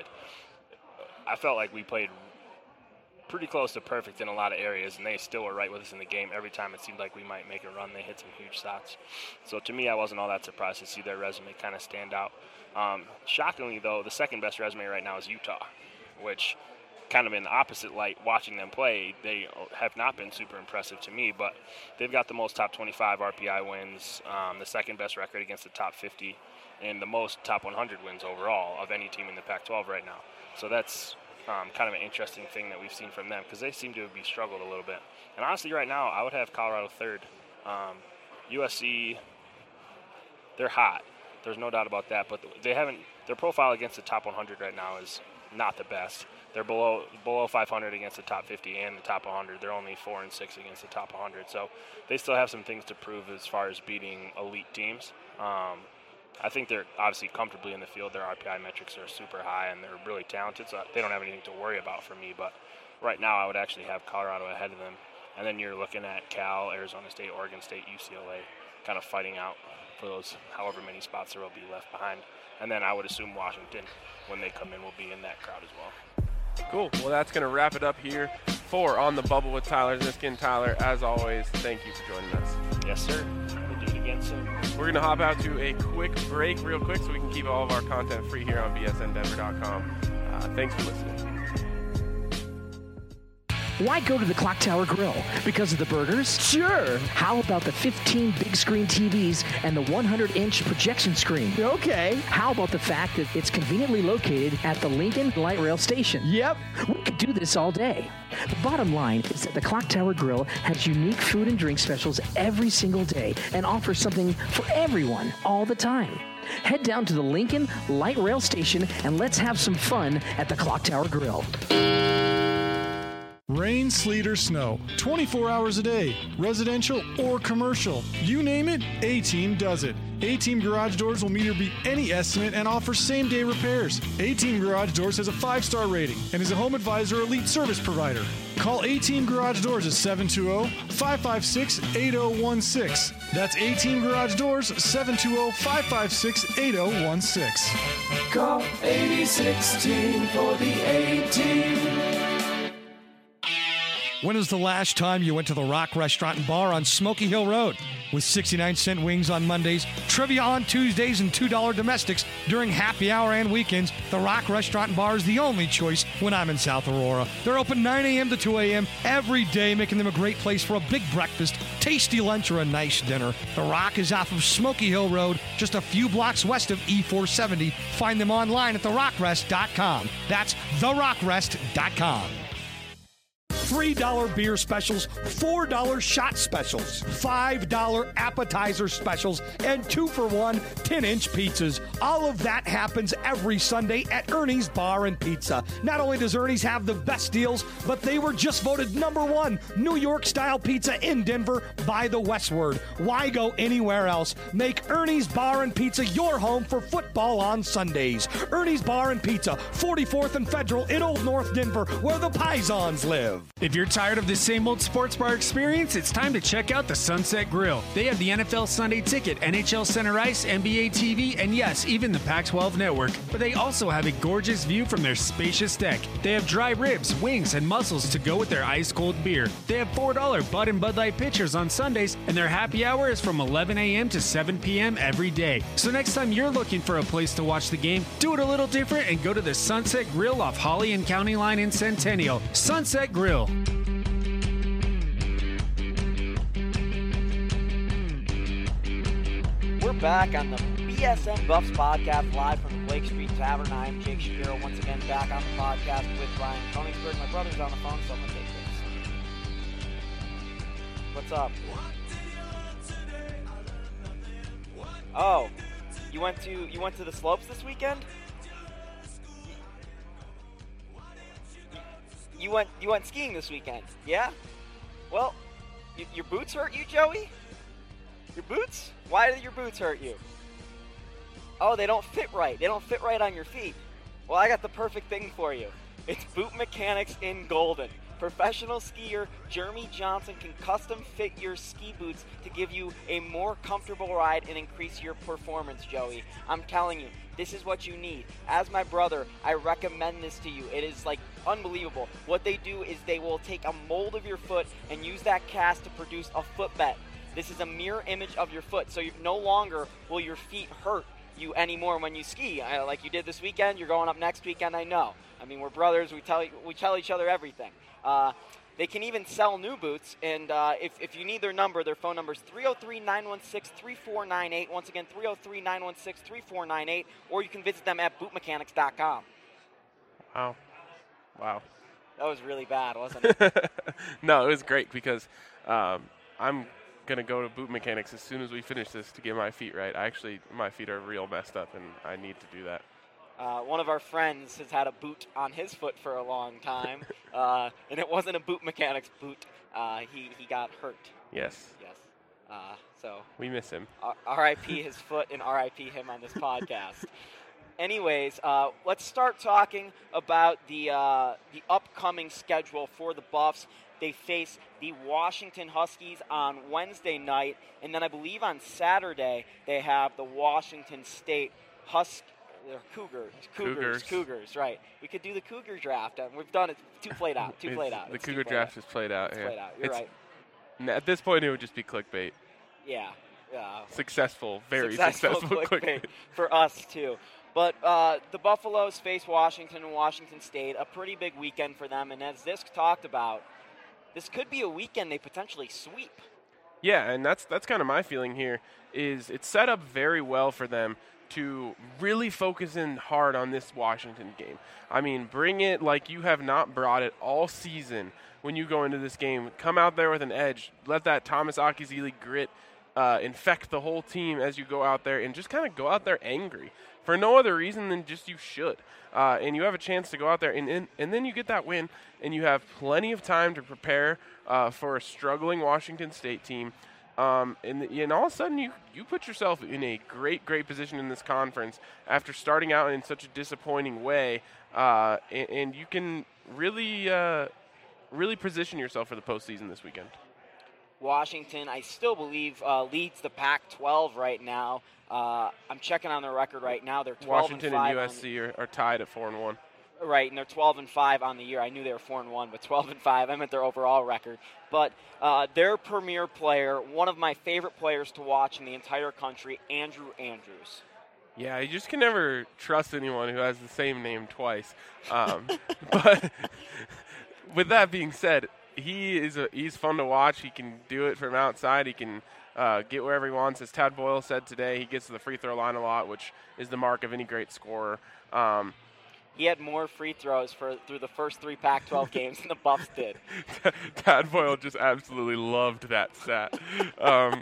I felt like we played pretty close to perfect in a lot of areas, and they still were right with us in the game. Every time it seemed like we might make a run, they hit some huge shots. So to me, I wasn't all that surprised to see their resume kind of stand out. Um, shockingly, though, the second best resume right now is Utah, which kind of in the opposite light, watching them play, they have not been super impressive to me, but they've got the most top twenty-five R P I wins, um, the second best record against the top fifty, and the most top one hundred wins overall of any team in the Pac twelve right now. So that's Um, kind of an interesting thing that we've seen from them, because they seem to be struggled a little bit. And honestly, right now, I would have Colorado third. Um, U S C, they're hot. There's no doubt about that. But they haven't. Their profile against the top one hundred right now is not the best. They're below below five hundred against the top fifty and the top one hundred. They're only four and six against the top one hundred. So they still have some things to prove as far as beating elite teams. Um, I think they're obviously comfortably in the field. Their R P I metrics are super high, and they're really talented, so they don't have anything to worry about for me. But right now, I would actually have Colorado ahead of them. And then you're looking at Cal, Arizona State, Oregon State, U C L A, kind of fighting out for those however many spots there will be left behind. And then I would assume Washington, when they come in, will be in that crowd as well. Cool. Well, that's going to wrap it up here for On the Bubble with Tyler Ziskin. Tyler, as always, thank you for joining us. Yes, sir. We'll do it again soon. We're going to hop out to a quick break real quick so we can keep all of our content free here on B S N Denver dot com. Uh, thanks for listening. Why go to the Clock Tower Grill? Because of the burgers? Sure. How about the fifteen big screen T Vs and the one hundred inch projection screen? Okay. How about the fact that it's conveniently located at the Lincoln Light Rail Station? Yep. We could do this all day. The bottom line is that the Clock Tower Grill has unique food and drink specials every single day and offers something for everyone all the time. Head down to the Lincoln Light Rail Station and let's have some fun at the Clock Tower Grill. Rain, sleet, or snow, twenty-four hours a day, residential or commercial. You name it, A-Team does it. A-Team Garage Doors will meet or beat any estimate and offer same-day repairs. A-Team Garage Doors has a five-star rating and is a Home Advisor Elite service provider. Call A-Team Garage Doors at seven two zero, five five six, eight zero one six. That's A-Team Garage Doors, seven two zero, five five six, eight zero one six. Call eighty sixteen for the A-Team. When was the last time you went to the Rock Restaurant and Bar on Smoky Hill Road? With sixty-nine cent wings on Mondays, trivia on Tuesdays, and two dollar domestics during happy hour and weekends, the Rock Restaurant and Bar is the only choice when I'm in South Aurora. They're open nine a.m. to two a.m. every day, making them a great place for a big breakfast, tasty lunch, or a nice dinner. The Rock is off of Smoky Hill Road, just a few blocks west of E four seventy. Find them online at the rock rest dot com. That's the rock rest dot com. three dollar beer specials, four dollar shot specials, five dollar appetizer specials, and two for one ten-inch pizzas. All of that happens every Sunday at Ernie's Bar and Pizza. Not only does Ernie's have the best deals, but they were just voted number one New York-style pizza in Denver by the Westward. Why go anywhere else? Make Ernie's Bar and Pizza your home for football on Sundays. Ernie's Bar and Pizza, forty-fourth and Federal in Old North Denver, where the Pisons live. If you're tired of the same old sports bar experience, it's time to check out the Sunset Grill. They have the N F L Sunday Ticket, N H L Center Ice, N B A T V, and yes, even the Pac twelve Network. But they also have a gorgeous view from their spacious deck. They have dry ribs, wings, and mussels to go with their ice-cold beer. They have four dollar Bud and Bud Light pitchers on Sundays, and their happy hour is from eleven a.m. to seven p.m. every day. So next time you're looking for a place to watch the game, do it a little different and go to the Sunset Grill off Holly and County Line in Centennial. Sunset Grill. We're back on the B S N Buffs podcast live from the Blake Street Tavern. I'm Jake Shapiro, once again back on the podcast with Ryan Koenigsberg. My brother's on the phone, so I'm going to take this. What's up? Oh, you went to you went to the slopes this weekend? You went you went skiing this weekend, yeah? Well, y- your boots hurt you, Joey? Your boots? Why do your boots hurt you? Oh, they don't fit right. They don't fit right on your feet. Well, I got the perfect thing for you. It's Boot Mechanics in Golden. Professional skier Jeremy Johnson can custom fit your ski boots to give you a more comfortable ride and increase your performance, Joey. I'm telling you, this is what you need. As my brother, I recommend this to you. It is like unbelievable. What they do is they will take a mold of your foot and use that cast to produce a footbed. This is a mirror image of your foot, so you no longer will your feet hurt you anymore when you ski. I, like you did this weekend, you're going up next weekend, I know. I mean, we're brothers, we tell we tell each other everything. Uh, they can even sell new boots, and uh, if, if you need their number, their phone number is three oh three, nine one six, three four nine eight. Once again, three oh three, nine one six, three four nine eight, or you can visit them at boot mechanics dot com. Wow. Wow. That was really bad, wasn't it? No, it was great because um, I'm going to go to Boot Mechanics as soon as we finish this to get my feet right. I actually, my feet are real messed up, and I need to do that. Uh, one of our friends has had a boot on his foot for a long time, uh, and it wasn't a Boot Mechanics boot. Uh, he, he got hurt. Yes. Yes. Uh, so we miss him. R I P his foot and R I P him on this podcast. Anyways, uh, let's start talking about the uh, the upcoming schedule for the Buffs. They face the Washington Huskies on Wednesday night, and then I believe on Saturday they have the Washington State Huskies. Cougars. Cougars. Cougars. Cougars, right. We could do the Cougar draft. Um, we've done it. Too played out. Too played out. The it's Cougar draft out. is played out. It's yeah. played out. You're it's, right. At this point, it would just be clickbait. Yeah. Uh, successful. Very successful, successful clickbait, clickbait. For us, too. But uh, the Buffaloes face Washington and Washington State. A pretty big weekend for them. And as this talked about, this could be a weekend they potentially sweep. Yeah, and that's that's kind of my feeling here, is it's set up very well for them to really focus in hard on this Washington game. I mean, bring it like you have not brought it all season when you go into this game. Come out there with an edge. Let that Thomas Akizili grit uh, infect the whole team as you go out there, and just kind of go out there angry for no other reason than just you should. Uh, and you have a chance to go out there, and, and, and then you get that win, and you have plenty of time to prepare uh, for a struggling Washington State team. Um, and, and all of a sudden, you, you put yourself in a great, great position in this conference after starting out in such a disappointing way, uh, and, and you can really, uh, really position yourself for the postseason this weekend. Washington, I still believe, uh, leads the Pac twelve right now. Uh, I'm checking on their record right now. They're twelve Washington and, five and U S C are, are tied at four and one. Right, and they're twelve and five on the year. I knew they were four and one, but twelve and five. I meant their overall record. But uh, their premier player, one of my favorite players to watch in the entire country, Andrew Andrews. Yeah, you just can never trust anyone who has the same name twice. Um, but with that being said, he is a, he's fun to watch. He can do it from outside. He can uh, get wherever he wants. As Tad Boyle said today, he gets to the free throw line a lot, which is the mark of any great scorer. Um, He had more free throws for through the first three Pac twelve games than the Buffs did. Tad Boyle just absolutely loved that stat. Um,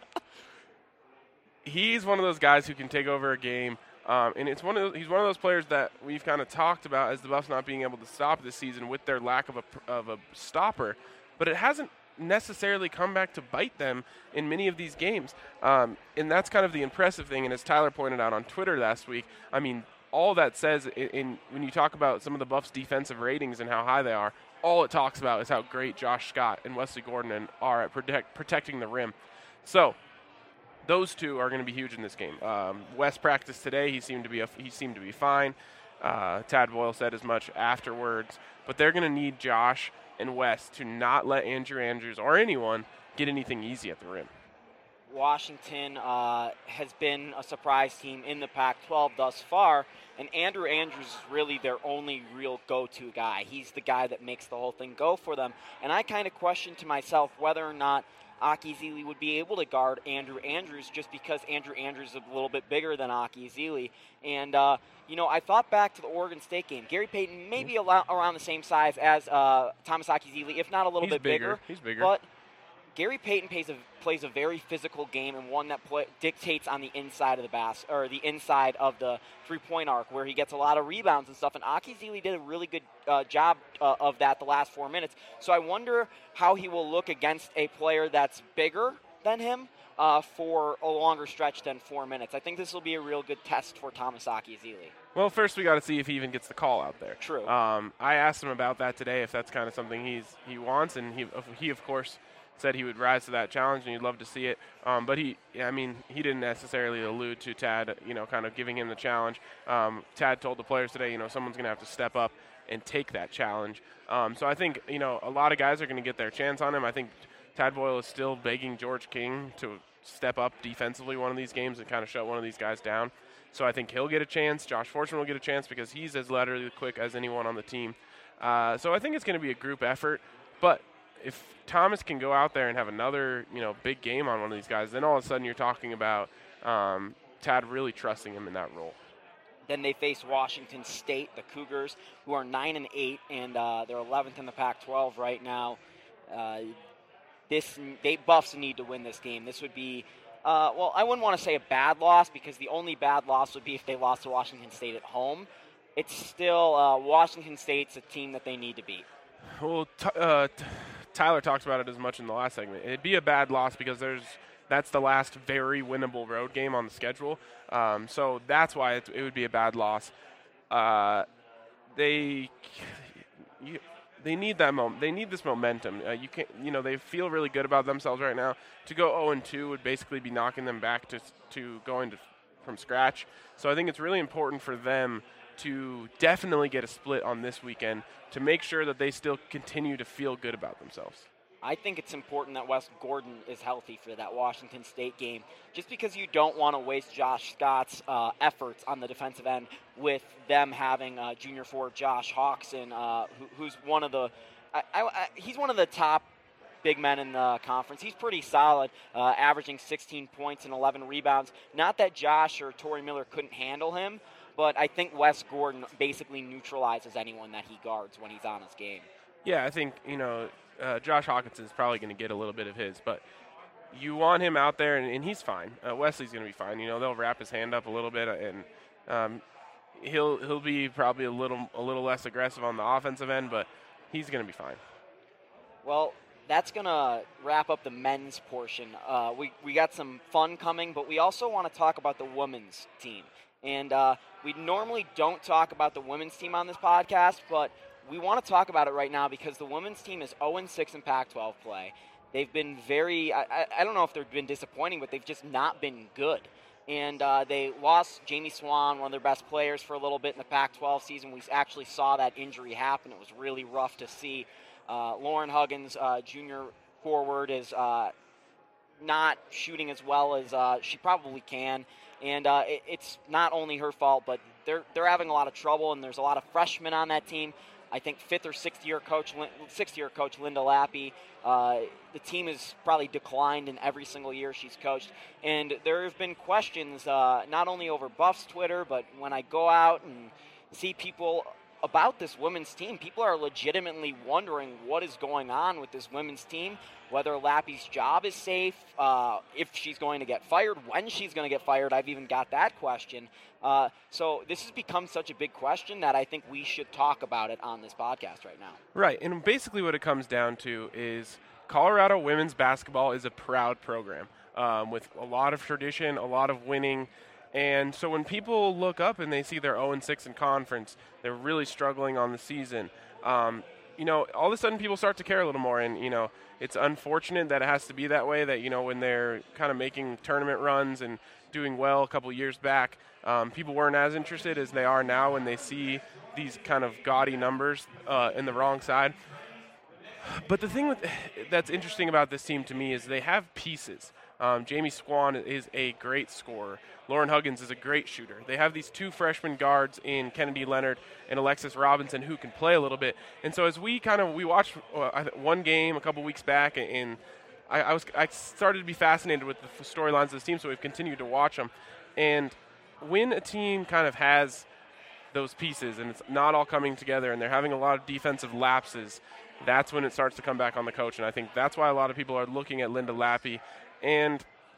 he's one of those guys who can take over a game, um, and it's one of those, he's one of those players that we've kind of talked about as the Buffs not being able to stop this season with their lack of a of a stopper, but it hasn't necessarily come back to bite them in many of these games, um, and that's kind of the impressive thing. And as Tyler pointed out on Twitter last week, I mean, all that says, in, in when you talk about some of the Buffs' defensive ratings and how high they are, all it talks about is how great Josh Scott and Wesley Gordon are at protect, protecting the rim. So those two are going to be huge in this game. Um, Wes practiced today; he seemed to be a, he seemed to be fine. Uh, Tad Boyle said as much afterwards. But they're going to need Josh and Wes to not let Andrew Andrews or anyone get anything easy at the rim. Washington uh, has been a surprise team in the Pac twelve thus far, and Andrew Andrews is really their only real go-to guy. He's the guy that makes the whole thing go for them. And I kind of question to myself whether or not Aki Zili would be able to guard Andrew Andrews, just because Andrew Andrews is a little bit bigger than Aki Zili. And, uh, you know, I thought back to the Oregon State game. Gary Payton may be around the same size as uh, Thomas Aki Zili, if not a little He's bit bigger. bigger. He's bigger. But Gary Payton plays a, plays a very physical game, and one that play, dictates on the inside of the bas- or the inside of the three-point arc, where he gets a lot of rebounds and stuff. And Aki Zili did a really good uh, job uh, of that the last four minutes. So I wonder how he will look against a player that's bigger than him uh, for a longer stretch than four minutes. I think this will be a real good test for Thomas Aki Zili. Well, first we got to see if he even gets the call out there. True. Um, I asked him about that today, if that's kind of something he's he wants, and he he of course said he would rise to that challenge and he'd love to see it. Um, but he, I mean, he didn't necessarily allude to Tad, you know, kind of giving him the challenge. Um, Tad told the players today, you know, someone's going to have to step up and take that challenge. Um, so I think, you know, a lot of guys are going to get their chance on him. I think Tad Boyle is still begging George King to step up defensively one of these games and kind of shut one of these guys down. So I think he'll get a chance. Josh Fortune will get a chance because he's as laterally quick as anyone on the team. Uh, so I think it's going to be a group effort. But if Thomas can go out there and have another, you know, big game on one of these guys, then all of a sudden you're talking about um, Tad really trusting him in that role. Then they face Washington State, the Cougars, who are nine and eight, and uh, they're eleventh in the Pac twelve right now. Uh, this they Buffs need to win this game. This would be, uh, well, I wouldn't want to say a bad loss, because the only bad loss would be if they lost to Washington State at home. It's still uh, Washington State's a team that they need to beat. Well, t- uh, t- Tyler talks about it as much in the last segment. It'd be a bad loss because there's that's the last very winnable road game on the schedule. Um, so that's why it, it would be a bad loss. Uh, they you, they need that moment. They need this momentum. Uh, you can you know they feel really good about themselves right now. To go oh and two would basically be knocking them back to to going to, from scratch. So I think it's really important for them to definitely get a split on this weekend to make sure that they still continue to feel good about themselves. I think it's important that Wes Gordon is healthy for that Washington State game, just because you don't want to waste Josh Scott's uh, efforts on the defensive end with them having uh, junior forward Josh Hawkson, uh, who, who's one of the I, I, I, he's one of the top big men in the conference. He's pretty solid, uh, averaging sixteen points and eleven rebounds. Not that Josh or Torrey Miller couldn't handle him, but I think Wes Gordon basically neutralizes anyone that he guards when he's on his game. Yeah, I think, you know, uh, Josh Hawkinson is probably going to get a little bit of his, but you want him out there, and, and he's fine. Uh, Wesley's going to be fine. You know, they'll wrap his hand up a little bit, and um, he'll he'll be probably a little a little less aggressive on the offensive end, but he's going to be fine. Well, that's going to wrap up the men's portion. Uh, we, we got some fun coming, but we also want to talk about the women's team. And uh, we normally don't talk about the women's team on this podcast, but we want to talk about it right now because the women's team is oh and six in Pac twelve play. They've been very, I, I don't know if they've been disappointing, but they've just not been good. And uh, they lost Jamie Swan, one of their best players, for a little bit in the Pac twelve season. We actually saw that injury happen. It was really rough to see. Uh, Lauren Huggins, uh, junior forward, is uh, not shooting as well as uh, she probably can. And uh, it, it's not only her fault, but they're they're having a lot of trouble, and there's a lot of freshmen on that team. I think fifth or sixth year coach, sixth year coach Linda Lappy. Uh, the team has probably declined in every single year she's coached, and there have been questions uh, not only over Buff's Twitter, but when I go out and see people about this women's team, people are legitimately wondering what is going on with this women's team, whether Lappy's job is safe, uh, if she's going to get fired, when she's going to get fired. I've even got that question. Uh, so this has become such a big question that I think we should talk about it on this podcast right now. Right, and basically what it comes down to is Colorado women's basketball is a proud program um, with a lot of tradition, a lot of winning. And so when people look up and they see they're oh and six in conference, they're really struggling on the season, um, you know, all of a sudden people start to care a little more. And, you know, it's unfortunate that it has to be that way, that, you know, when they're kind of making tournament runs and doing well a couple years back, um, people weren't as interested as they are now when they see these kind of gaudy numbers uh, in the wrong side. But the thing with, that's interesting about this team to me is they have pieces. Um, Jamie Swan is a great scorer. Lauren Huggins is a great shooter. They have these two freshman guards in Kennedy Leonard and Alexis Robinson who can play a little bit. And so as we kind of we watched uh, one game a couple weeks back, and I, I was I started to be fascinated with the storylines of this team, so we've continued to watch them. And when a team kind of has those pieces and it's not all coming together and they're having a lot of defensive lapses, that's when it starts to come back on the coach. And I think that's why a lot of people are looking at Linda Lappy. And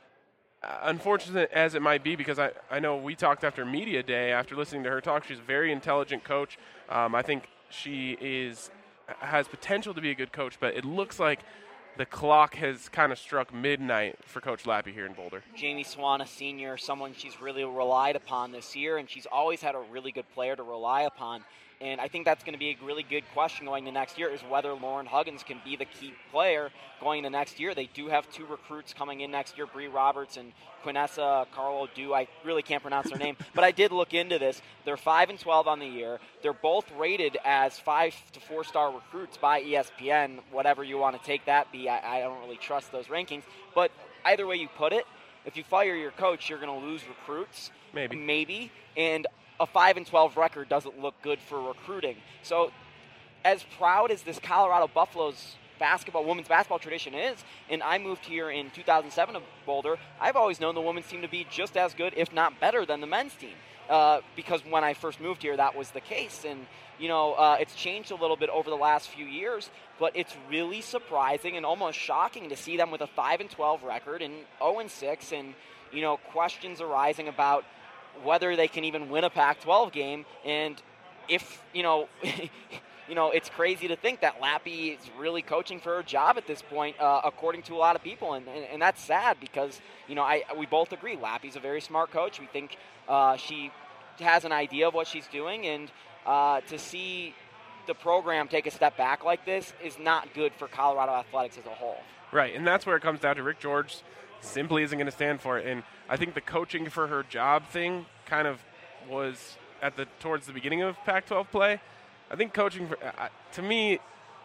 unfortunate as it might be, because I, I know we talked after media day, after listening to her talk, she's a very intelligent coach. Um, I think she is has potential to be a good coach, but it looks like the clock has kind of struck midnight for Coach Lappy here in Boulder. Jamie Swan, a senior, someone she's really relied upon this year, and she's always had a really good player to rely upon. And I think that's going to be a really good question going to next year, is whether Lauren Huggins can be the key player going to next year. They do have two recruits coming in next year, Bree Roberts and Quinessa Carlo Du. I really can't pronounce their name, but I did look into this. They're five and twelve on the year. They're both rated as five to four star recruits by E S P N, whatever you want to take that be. I, I don't really trust those rankings, but either way you put it, if you fire your coach, you're going to lose recruits. Maybe. Maybe. And a five and twelve record doesn't look good for recruiting. So as proud as this Colorado Buffaloes basketball, women's basketball tradition is, and I moved here in two thousand seven to Boulder, I've always known the women's team to be just as good, if not better, than the men's team. Uh, because when I first moved here, that was the case. And, you know, uh, it's changed a little bit over the last few years, but it's really surprising and almost shocking to see them with a five and twelve record and oh and six, and, you know, questions arising about whether they can even win a Pac twelve game. And if, you know, you know, it's crazy to think that Lappy is really coaching for her job at this point, uh, according to a lot of people. And, and, and that's sad because, you know, I we both agree Lappy's a very smart coach. We think uh, she has an idea of what she's doing. And uh, to see the program take a step back like this is not good for Colorado athletics as a whole. Right, and that's where it comes down to. Rick George simply isn't going to stand for it. And I think the coaching for her job thing kind of was at the towards the beginning of Pac twelve play. I think coaching, for, uh, to me,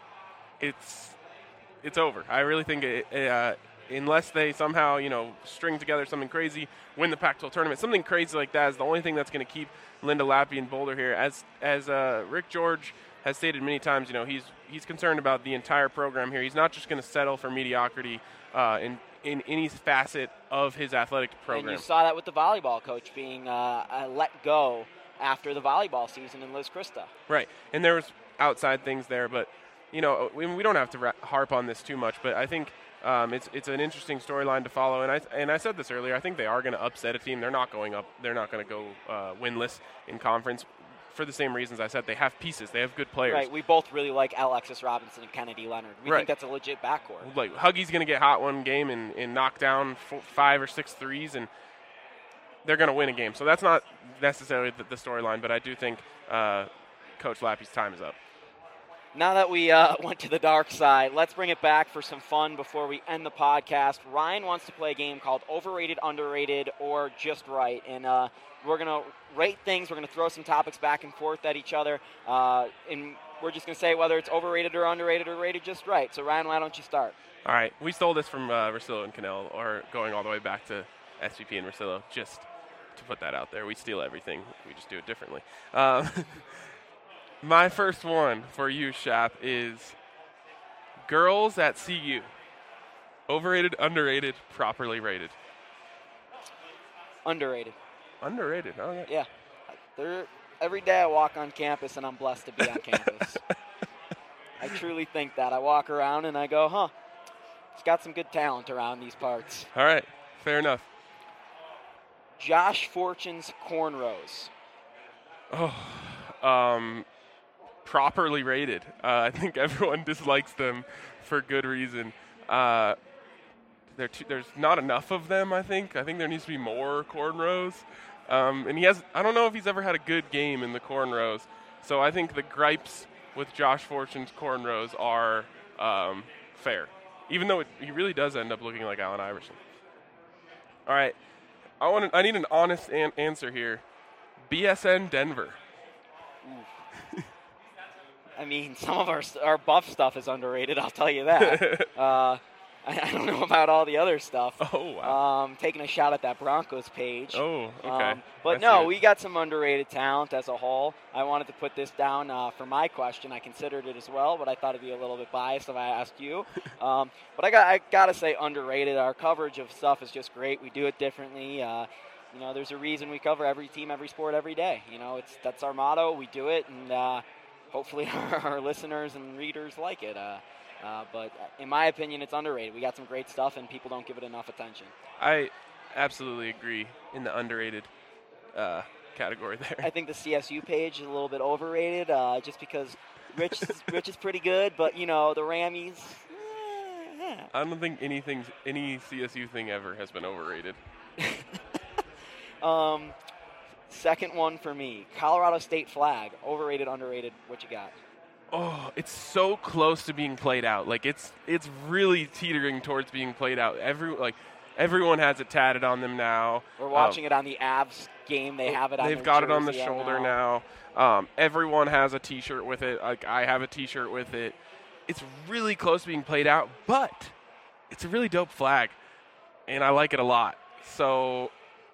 it's it's over. I really think it, uh, unless they somehow, you know, string together something crazy, win the Pac twelve tournament, something crazy like that is the only thing that's going to keep Linda Lappy in Boulder here. As as uh, Rick George has stated many times, you know, he's he's concerned about the entire program here. He's not just going to settle for mediocrity uh, in in any facet of his athletic program. And you saw that with the volleyball coach being uh, uh, let go after the volleyball season in Liz Christa. Right, and there was outside things there, but, you know, we, we don't have to ra- harp on this too much, but I think um, it's it's an interesting storyline to follow, and I and I said this earlier, I think they are going to upset a team. They're not going up. They're not going to go uh, winless in conference. for the same reasons I said. They have pieces. They have good players. Right. We both really like Alexis Robinson and Kennedy Leonard. We Right. think that's a legit backcourt. Like Huggy's going to get hot one game and, and knock down four, five or six threes, and they're going to win a game. So that's not necessarily the, the storyline, but I do think uh, Coach Lappy's time is up. Now that we uh, went to the dark side, let's bring it back for some fun before we end the podcast. Ryan wants to play a game called Overrated, Underrated, or Just Right. And uh, we're going to rate things. We're going to throw some topics back and forth at each other. Uh, and we're just going to say whether it's overrated or underrated or rated just right. So, Ryan, why don't you start? All right. We stole this from uh, Rosillo and Cannell, or going all the way back to S V P and Rosillo, just to put that out there. We steal everything. We just do it differently. Um, my first one for you, Shap, is girls at C U. Overrated, underrated, properly rated. Underrated. Underrated. Oh, yeah. Yeah. They're, every day I walk on campus, and I'm blessed to be on campus. I truly think that. I walk around, and I go, huh, it's got some good talent around these parts. All right. Fair enough. Josh Fortune's cornrows. Oh, um, properly rated. Uh, I think everyone dislikes them for good reason. Uh, too, there's not enough of them, I think. I think there needs to be more cornrows. Um, and he has, I don't know if he's ever had a good game in the cornrows. So I think the gripes with Josh Fortune's cornrows are um, fair, even though it, he really does end up looking like Allen Iverson. All right. I want. I need an honest an- answer here. B S N Denver. I mean, some of our our buff stuff is underrated. I'll tell you that. uh, I, I don't know about all the other stuff. Oh wow! Um, taking a shot at that Broncos page. Oh, okay. Um, but no, we got some underrated talent as a whole. I wanted to put this down uh, for my question. I considered it as well, but I thought it'd be a little bit biased if I asked you. um, but I got I gotta say underrated. Our coverage of stuff is just great. We do it differently. Uh, you know, there's a reason we cover every team, every sport, every day. You know, it's that's our motto. We do it, and uh, hopefully our, our listeners and readers like it. Uh, Uh, but in my opinion, it's underrated. We got some great stuff, and people don't give it enough attention. I absolutely agree in the underrated uh, category there. I think the C S U page is a little bit overrated, uh, just because Rich is, Rich is pretty good, but you know the Rammies. Eh, eh. I don't think anything, any C S U thing ever has been overrated. um, second one for me, Colorado State flag, overrated, underrated. What you got? Oh, it's so close to being played out. Like it's it's really teetering towards being played out. Every like everyone has it tatted on them now. We're watching um, it on the Avs game. They have it on. They've got jersey it on the shoulder now. now. Um, everyone has a T-shirt with it. Like I have a T-shirt with it. It's really close to being played out, but it's a really dope flag, and I like it a lot. So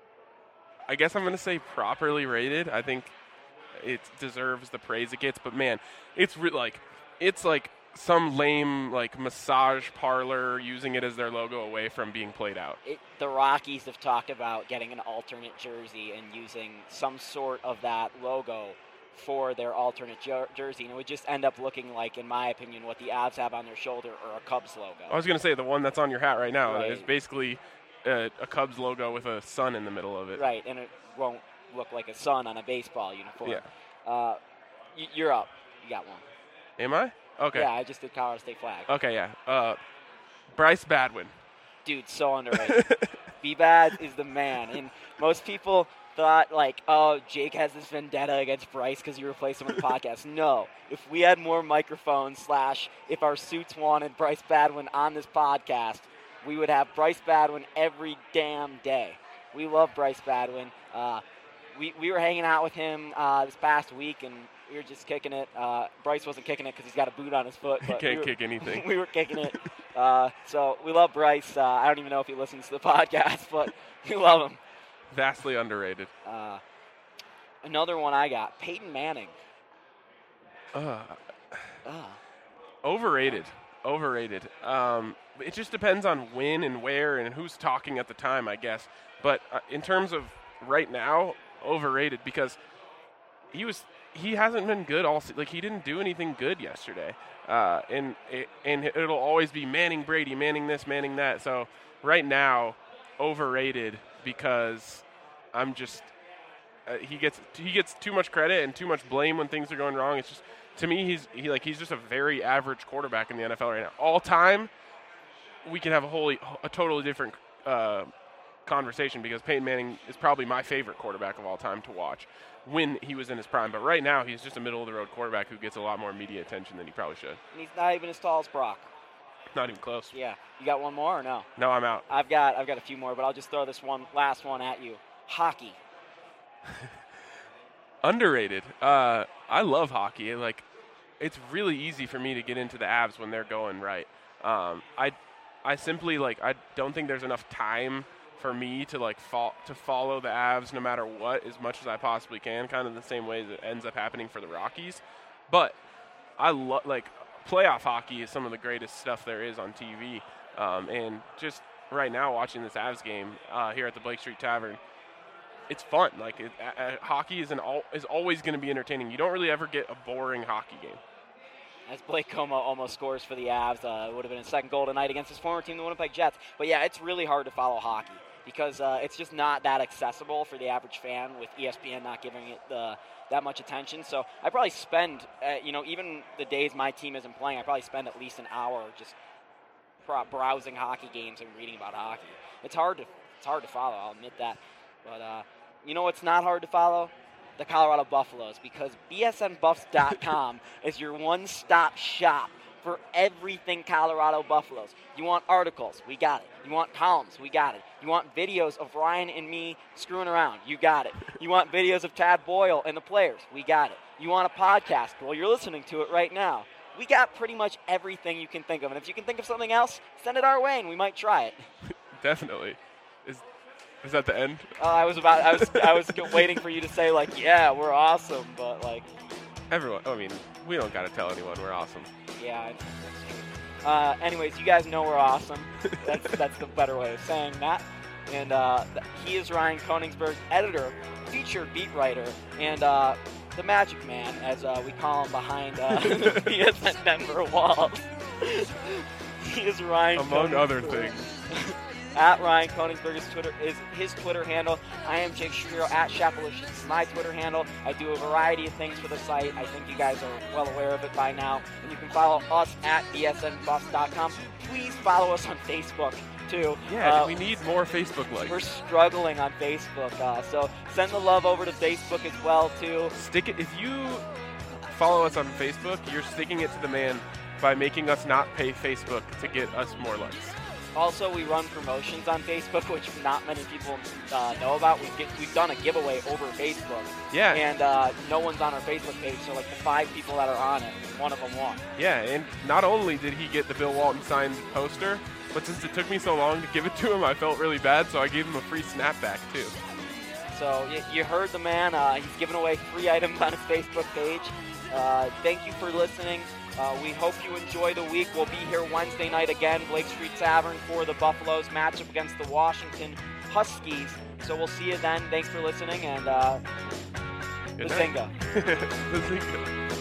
I guess I'm going to say properly rated. I think it deserves the praise it gets, but man, it's re- like it's like some lame like massage parlor using it as their logo away from being played out. It, the Rockies have talked about getting an alternate jersey and using some sort of that logo for their alternate jer- jersey, and it would just end up looking like, in my opinion, what the Avs have on their shoulder or a Cubs logo. I was going to say the one that's on your hat right now right. is basically a, a Cubs logo with a sun in the middle of it. Right, and it won't look like a sun on a baseball uniform. Yeah. Uh, y- you're up. You got one. Am I? Okay. Yeah, I just did Colorado State flag. Okay, yeah. Uh, Bryce Badwin. Dude, so underrated. B-Bad is the man. And most people thought, like, oh, Jake has this vendetta against Bryce because you replaced him on the podcast. No. If we had more microphones, slash, if our suits wanted Bryce Badwin on this podcast, we would have Bryce Badwin every damn day. We love Bryce Badwin. Uh, we, we were hanging out with him uh, this past week, and we were just kicking it. Uh, Bryce wasn't kicking it because he's got a boot on his foot. He but can't we were, kick anything. We were kicking it. Uh, so we love Bryce. Uh, I don't even know if he listens to the podcast, but we love him. Vastly underrated. Uh, another one I got, Peyton Manning. Uh, uh. Overrated. Overrated. Um, it just depends on when and where and who's talking at the time, I guess. But uh, in terms of right now, overrated because he was he hasn't been good all se- like he didn't do anything good yesterday. Uh, and it, and it'll always be Manning Brady, Manning this, Manning that. So right now, overrated because I'm just uh, he gets he gets too much credit and too much blame when things are going wrong. It's just to me he's he like he's just a very average quarterback in the N F L right now. All time, we can have a wholly a totally different uh, conversation because Peyton Manning is probably my favorite quarterback of all time to watch when he was in his prime. But right now, he's just a middle of the road quarterback who gets a lot more media attention than he probably should. And he's not even as tall as Brock. Not even close. Yeah. You got one more or no? No, I'm out. I've got I've got a few more, but I'll just throw this one last one at you. Hockey. Underrated. Uh, I love hockey. Like, it's really easy for me to get into the Avs when they're going right. Um, I, I simply like I don't think there's enough time for me to like fo- to follow the Avs no matter what as much as I possibly can. Kind of the same way that ends up happening for the Rockies. But I love like. Playoff hockey is some of the greatest stuff there is on T V. Um, and just right now watching this Avs game uh, here at the Blake Street Tavern, it's fun. Like it, uh, hockey is, an al- is always going to be entertaining. You don't really ever get a boring hockey game. As Blake Comeau almost scores for the Avs, uh, it would have been his second goal tonight against his former team, the Winnipeg Jets. But, yeah, it's really hard to follow hockey because uh, it's just not that accessible for the average fan with E S P N not giving it the – that much attention. So I probably spend, uh, you know, even the days my team isn't playing, I probably spend at least an hour just browsing hockey games and reading about hockey. It's hard to it's hard to follow, I'll admit that. But uh, you know what's not hard to follow? The Colorado Buffaloes, because B S N Buffs dot com is your one-stop shop for everything Colorado Buffaloes. You want articles? We got it. You want columns? We got it. You want videos of Ryan and me screwing around? You got it. You want videos of Tad Boyle and the players? We got it. You want a podcast? Well, you're listening to it right now. We got pretty much everything you can think of. And if you can think of something else, send it our way and we might try it. Definitely. Is is that the end? Uh, I was about I was I was waiting for you to say like, yeah, we're awesome, but like everyone, I mean, we don't got to tell anyone we're awesome. Yeah, I think that's true. Uh, anyways, you guys know we're awesome. That's that's the better way of saying that. And uh, th- he is Ryan Koenigsberg, editor, featured beat writer, and uh, the Magic Man, as uh, we call him behind uh, the B S N Denver walls. He is Ryan. Among other things. At Ryan Koenigsberg is Twitter is his Twitter handle. I am Jake Shapiro at Shapalish is my Twitter handle. I do a variety of things for the site. I think you guys are well aware of it by now. And you can follow us at B S N Buffs dot com. Please follow us on Facebook too. Yeah, uh, we need more Facebook likes. We're struggling on Facebook, uh, so send the love over to Facebook as well too. Stick it if you follow us on Facebook. You're sticking it to the man by making us not pay Facebook to get us more likes. Also, we run promotions on Facebook, which not many people uh, know about. We've, get, we've done a giveaway over Facebook. Yeah. And uh, no one's on our Facebook page, so like the five people that are on it, one of them won. Yeah, and not only did he get the Bill Walton signed poster, but since it took me so long to give it to him, I felt really bad, so I gave him a free snapback, too. So y- you heard the man. Uh, he's giving away free items on his Facebook page. Uh, thank you for listening. Uh, we hope you enjoy the week. We'll be here Wednesday night again, Blake Street Tavern, for the Buffaloes matchup against the Washington Huskies. So we'll see you then. Thanks for listening, and uh, Bazinga. Bazinga.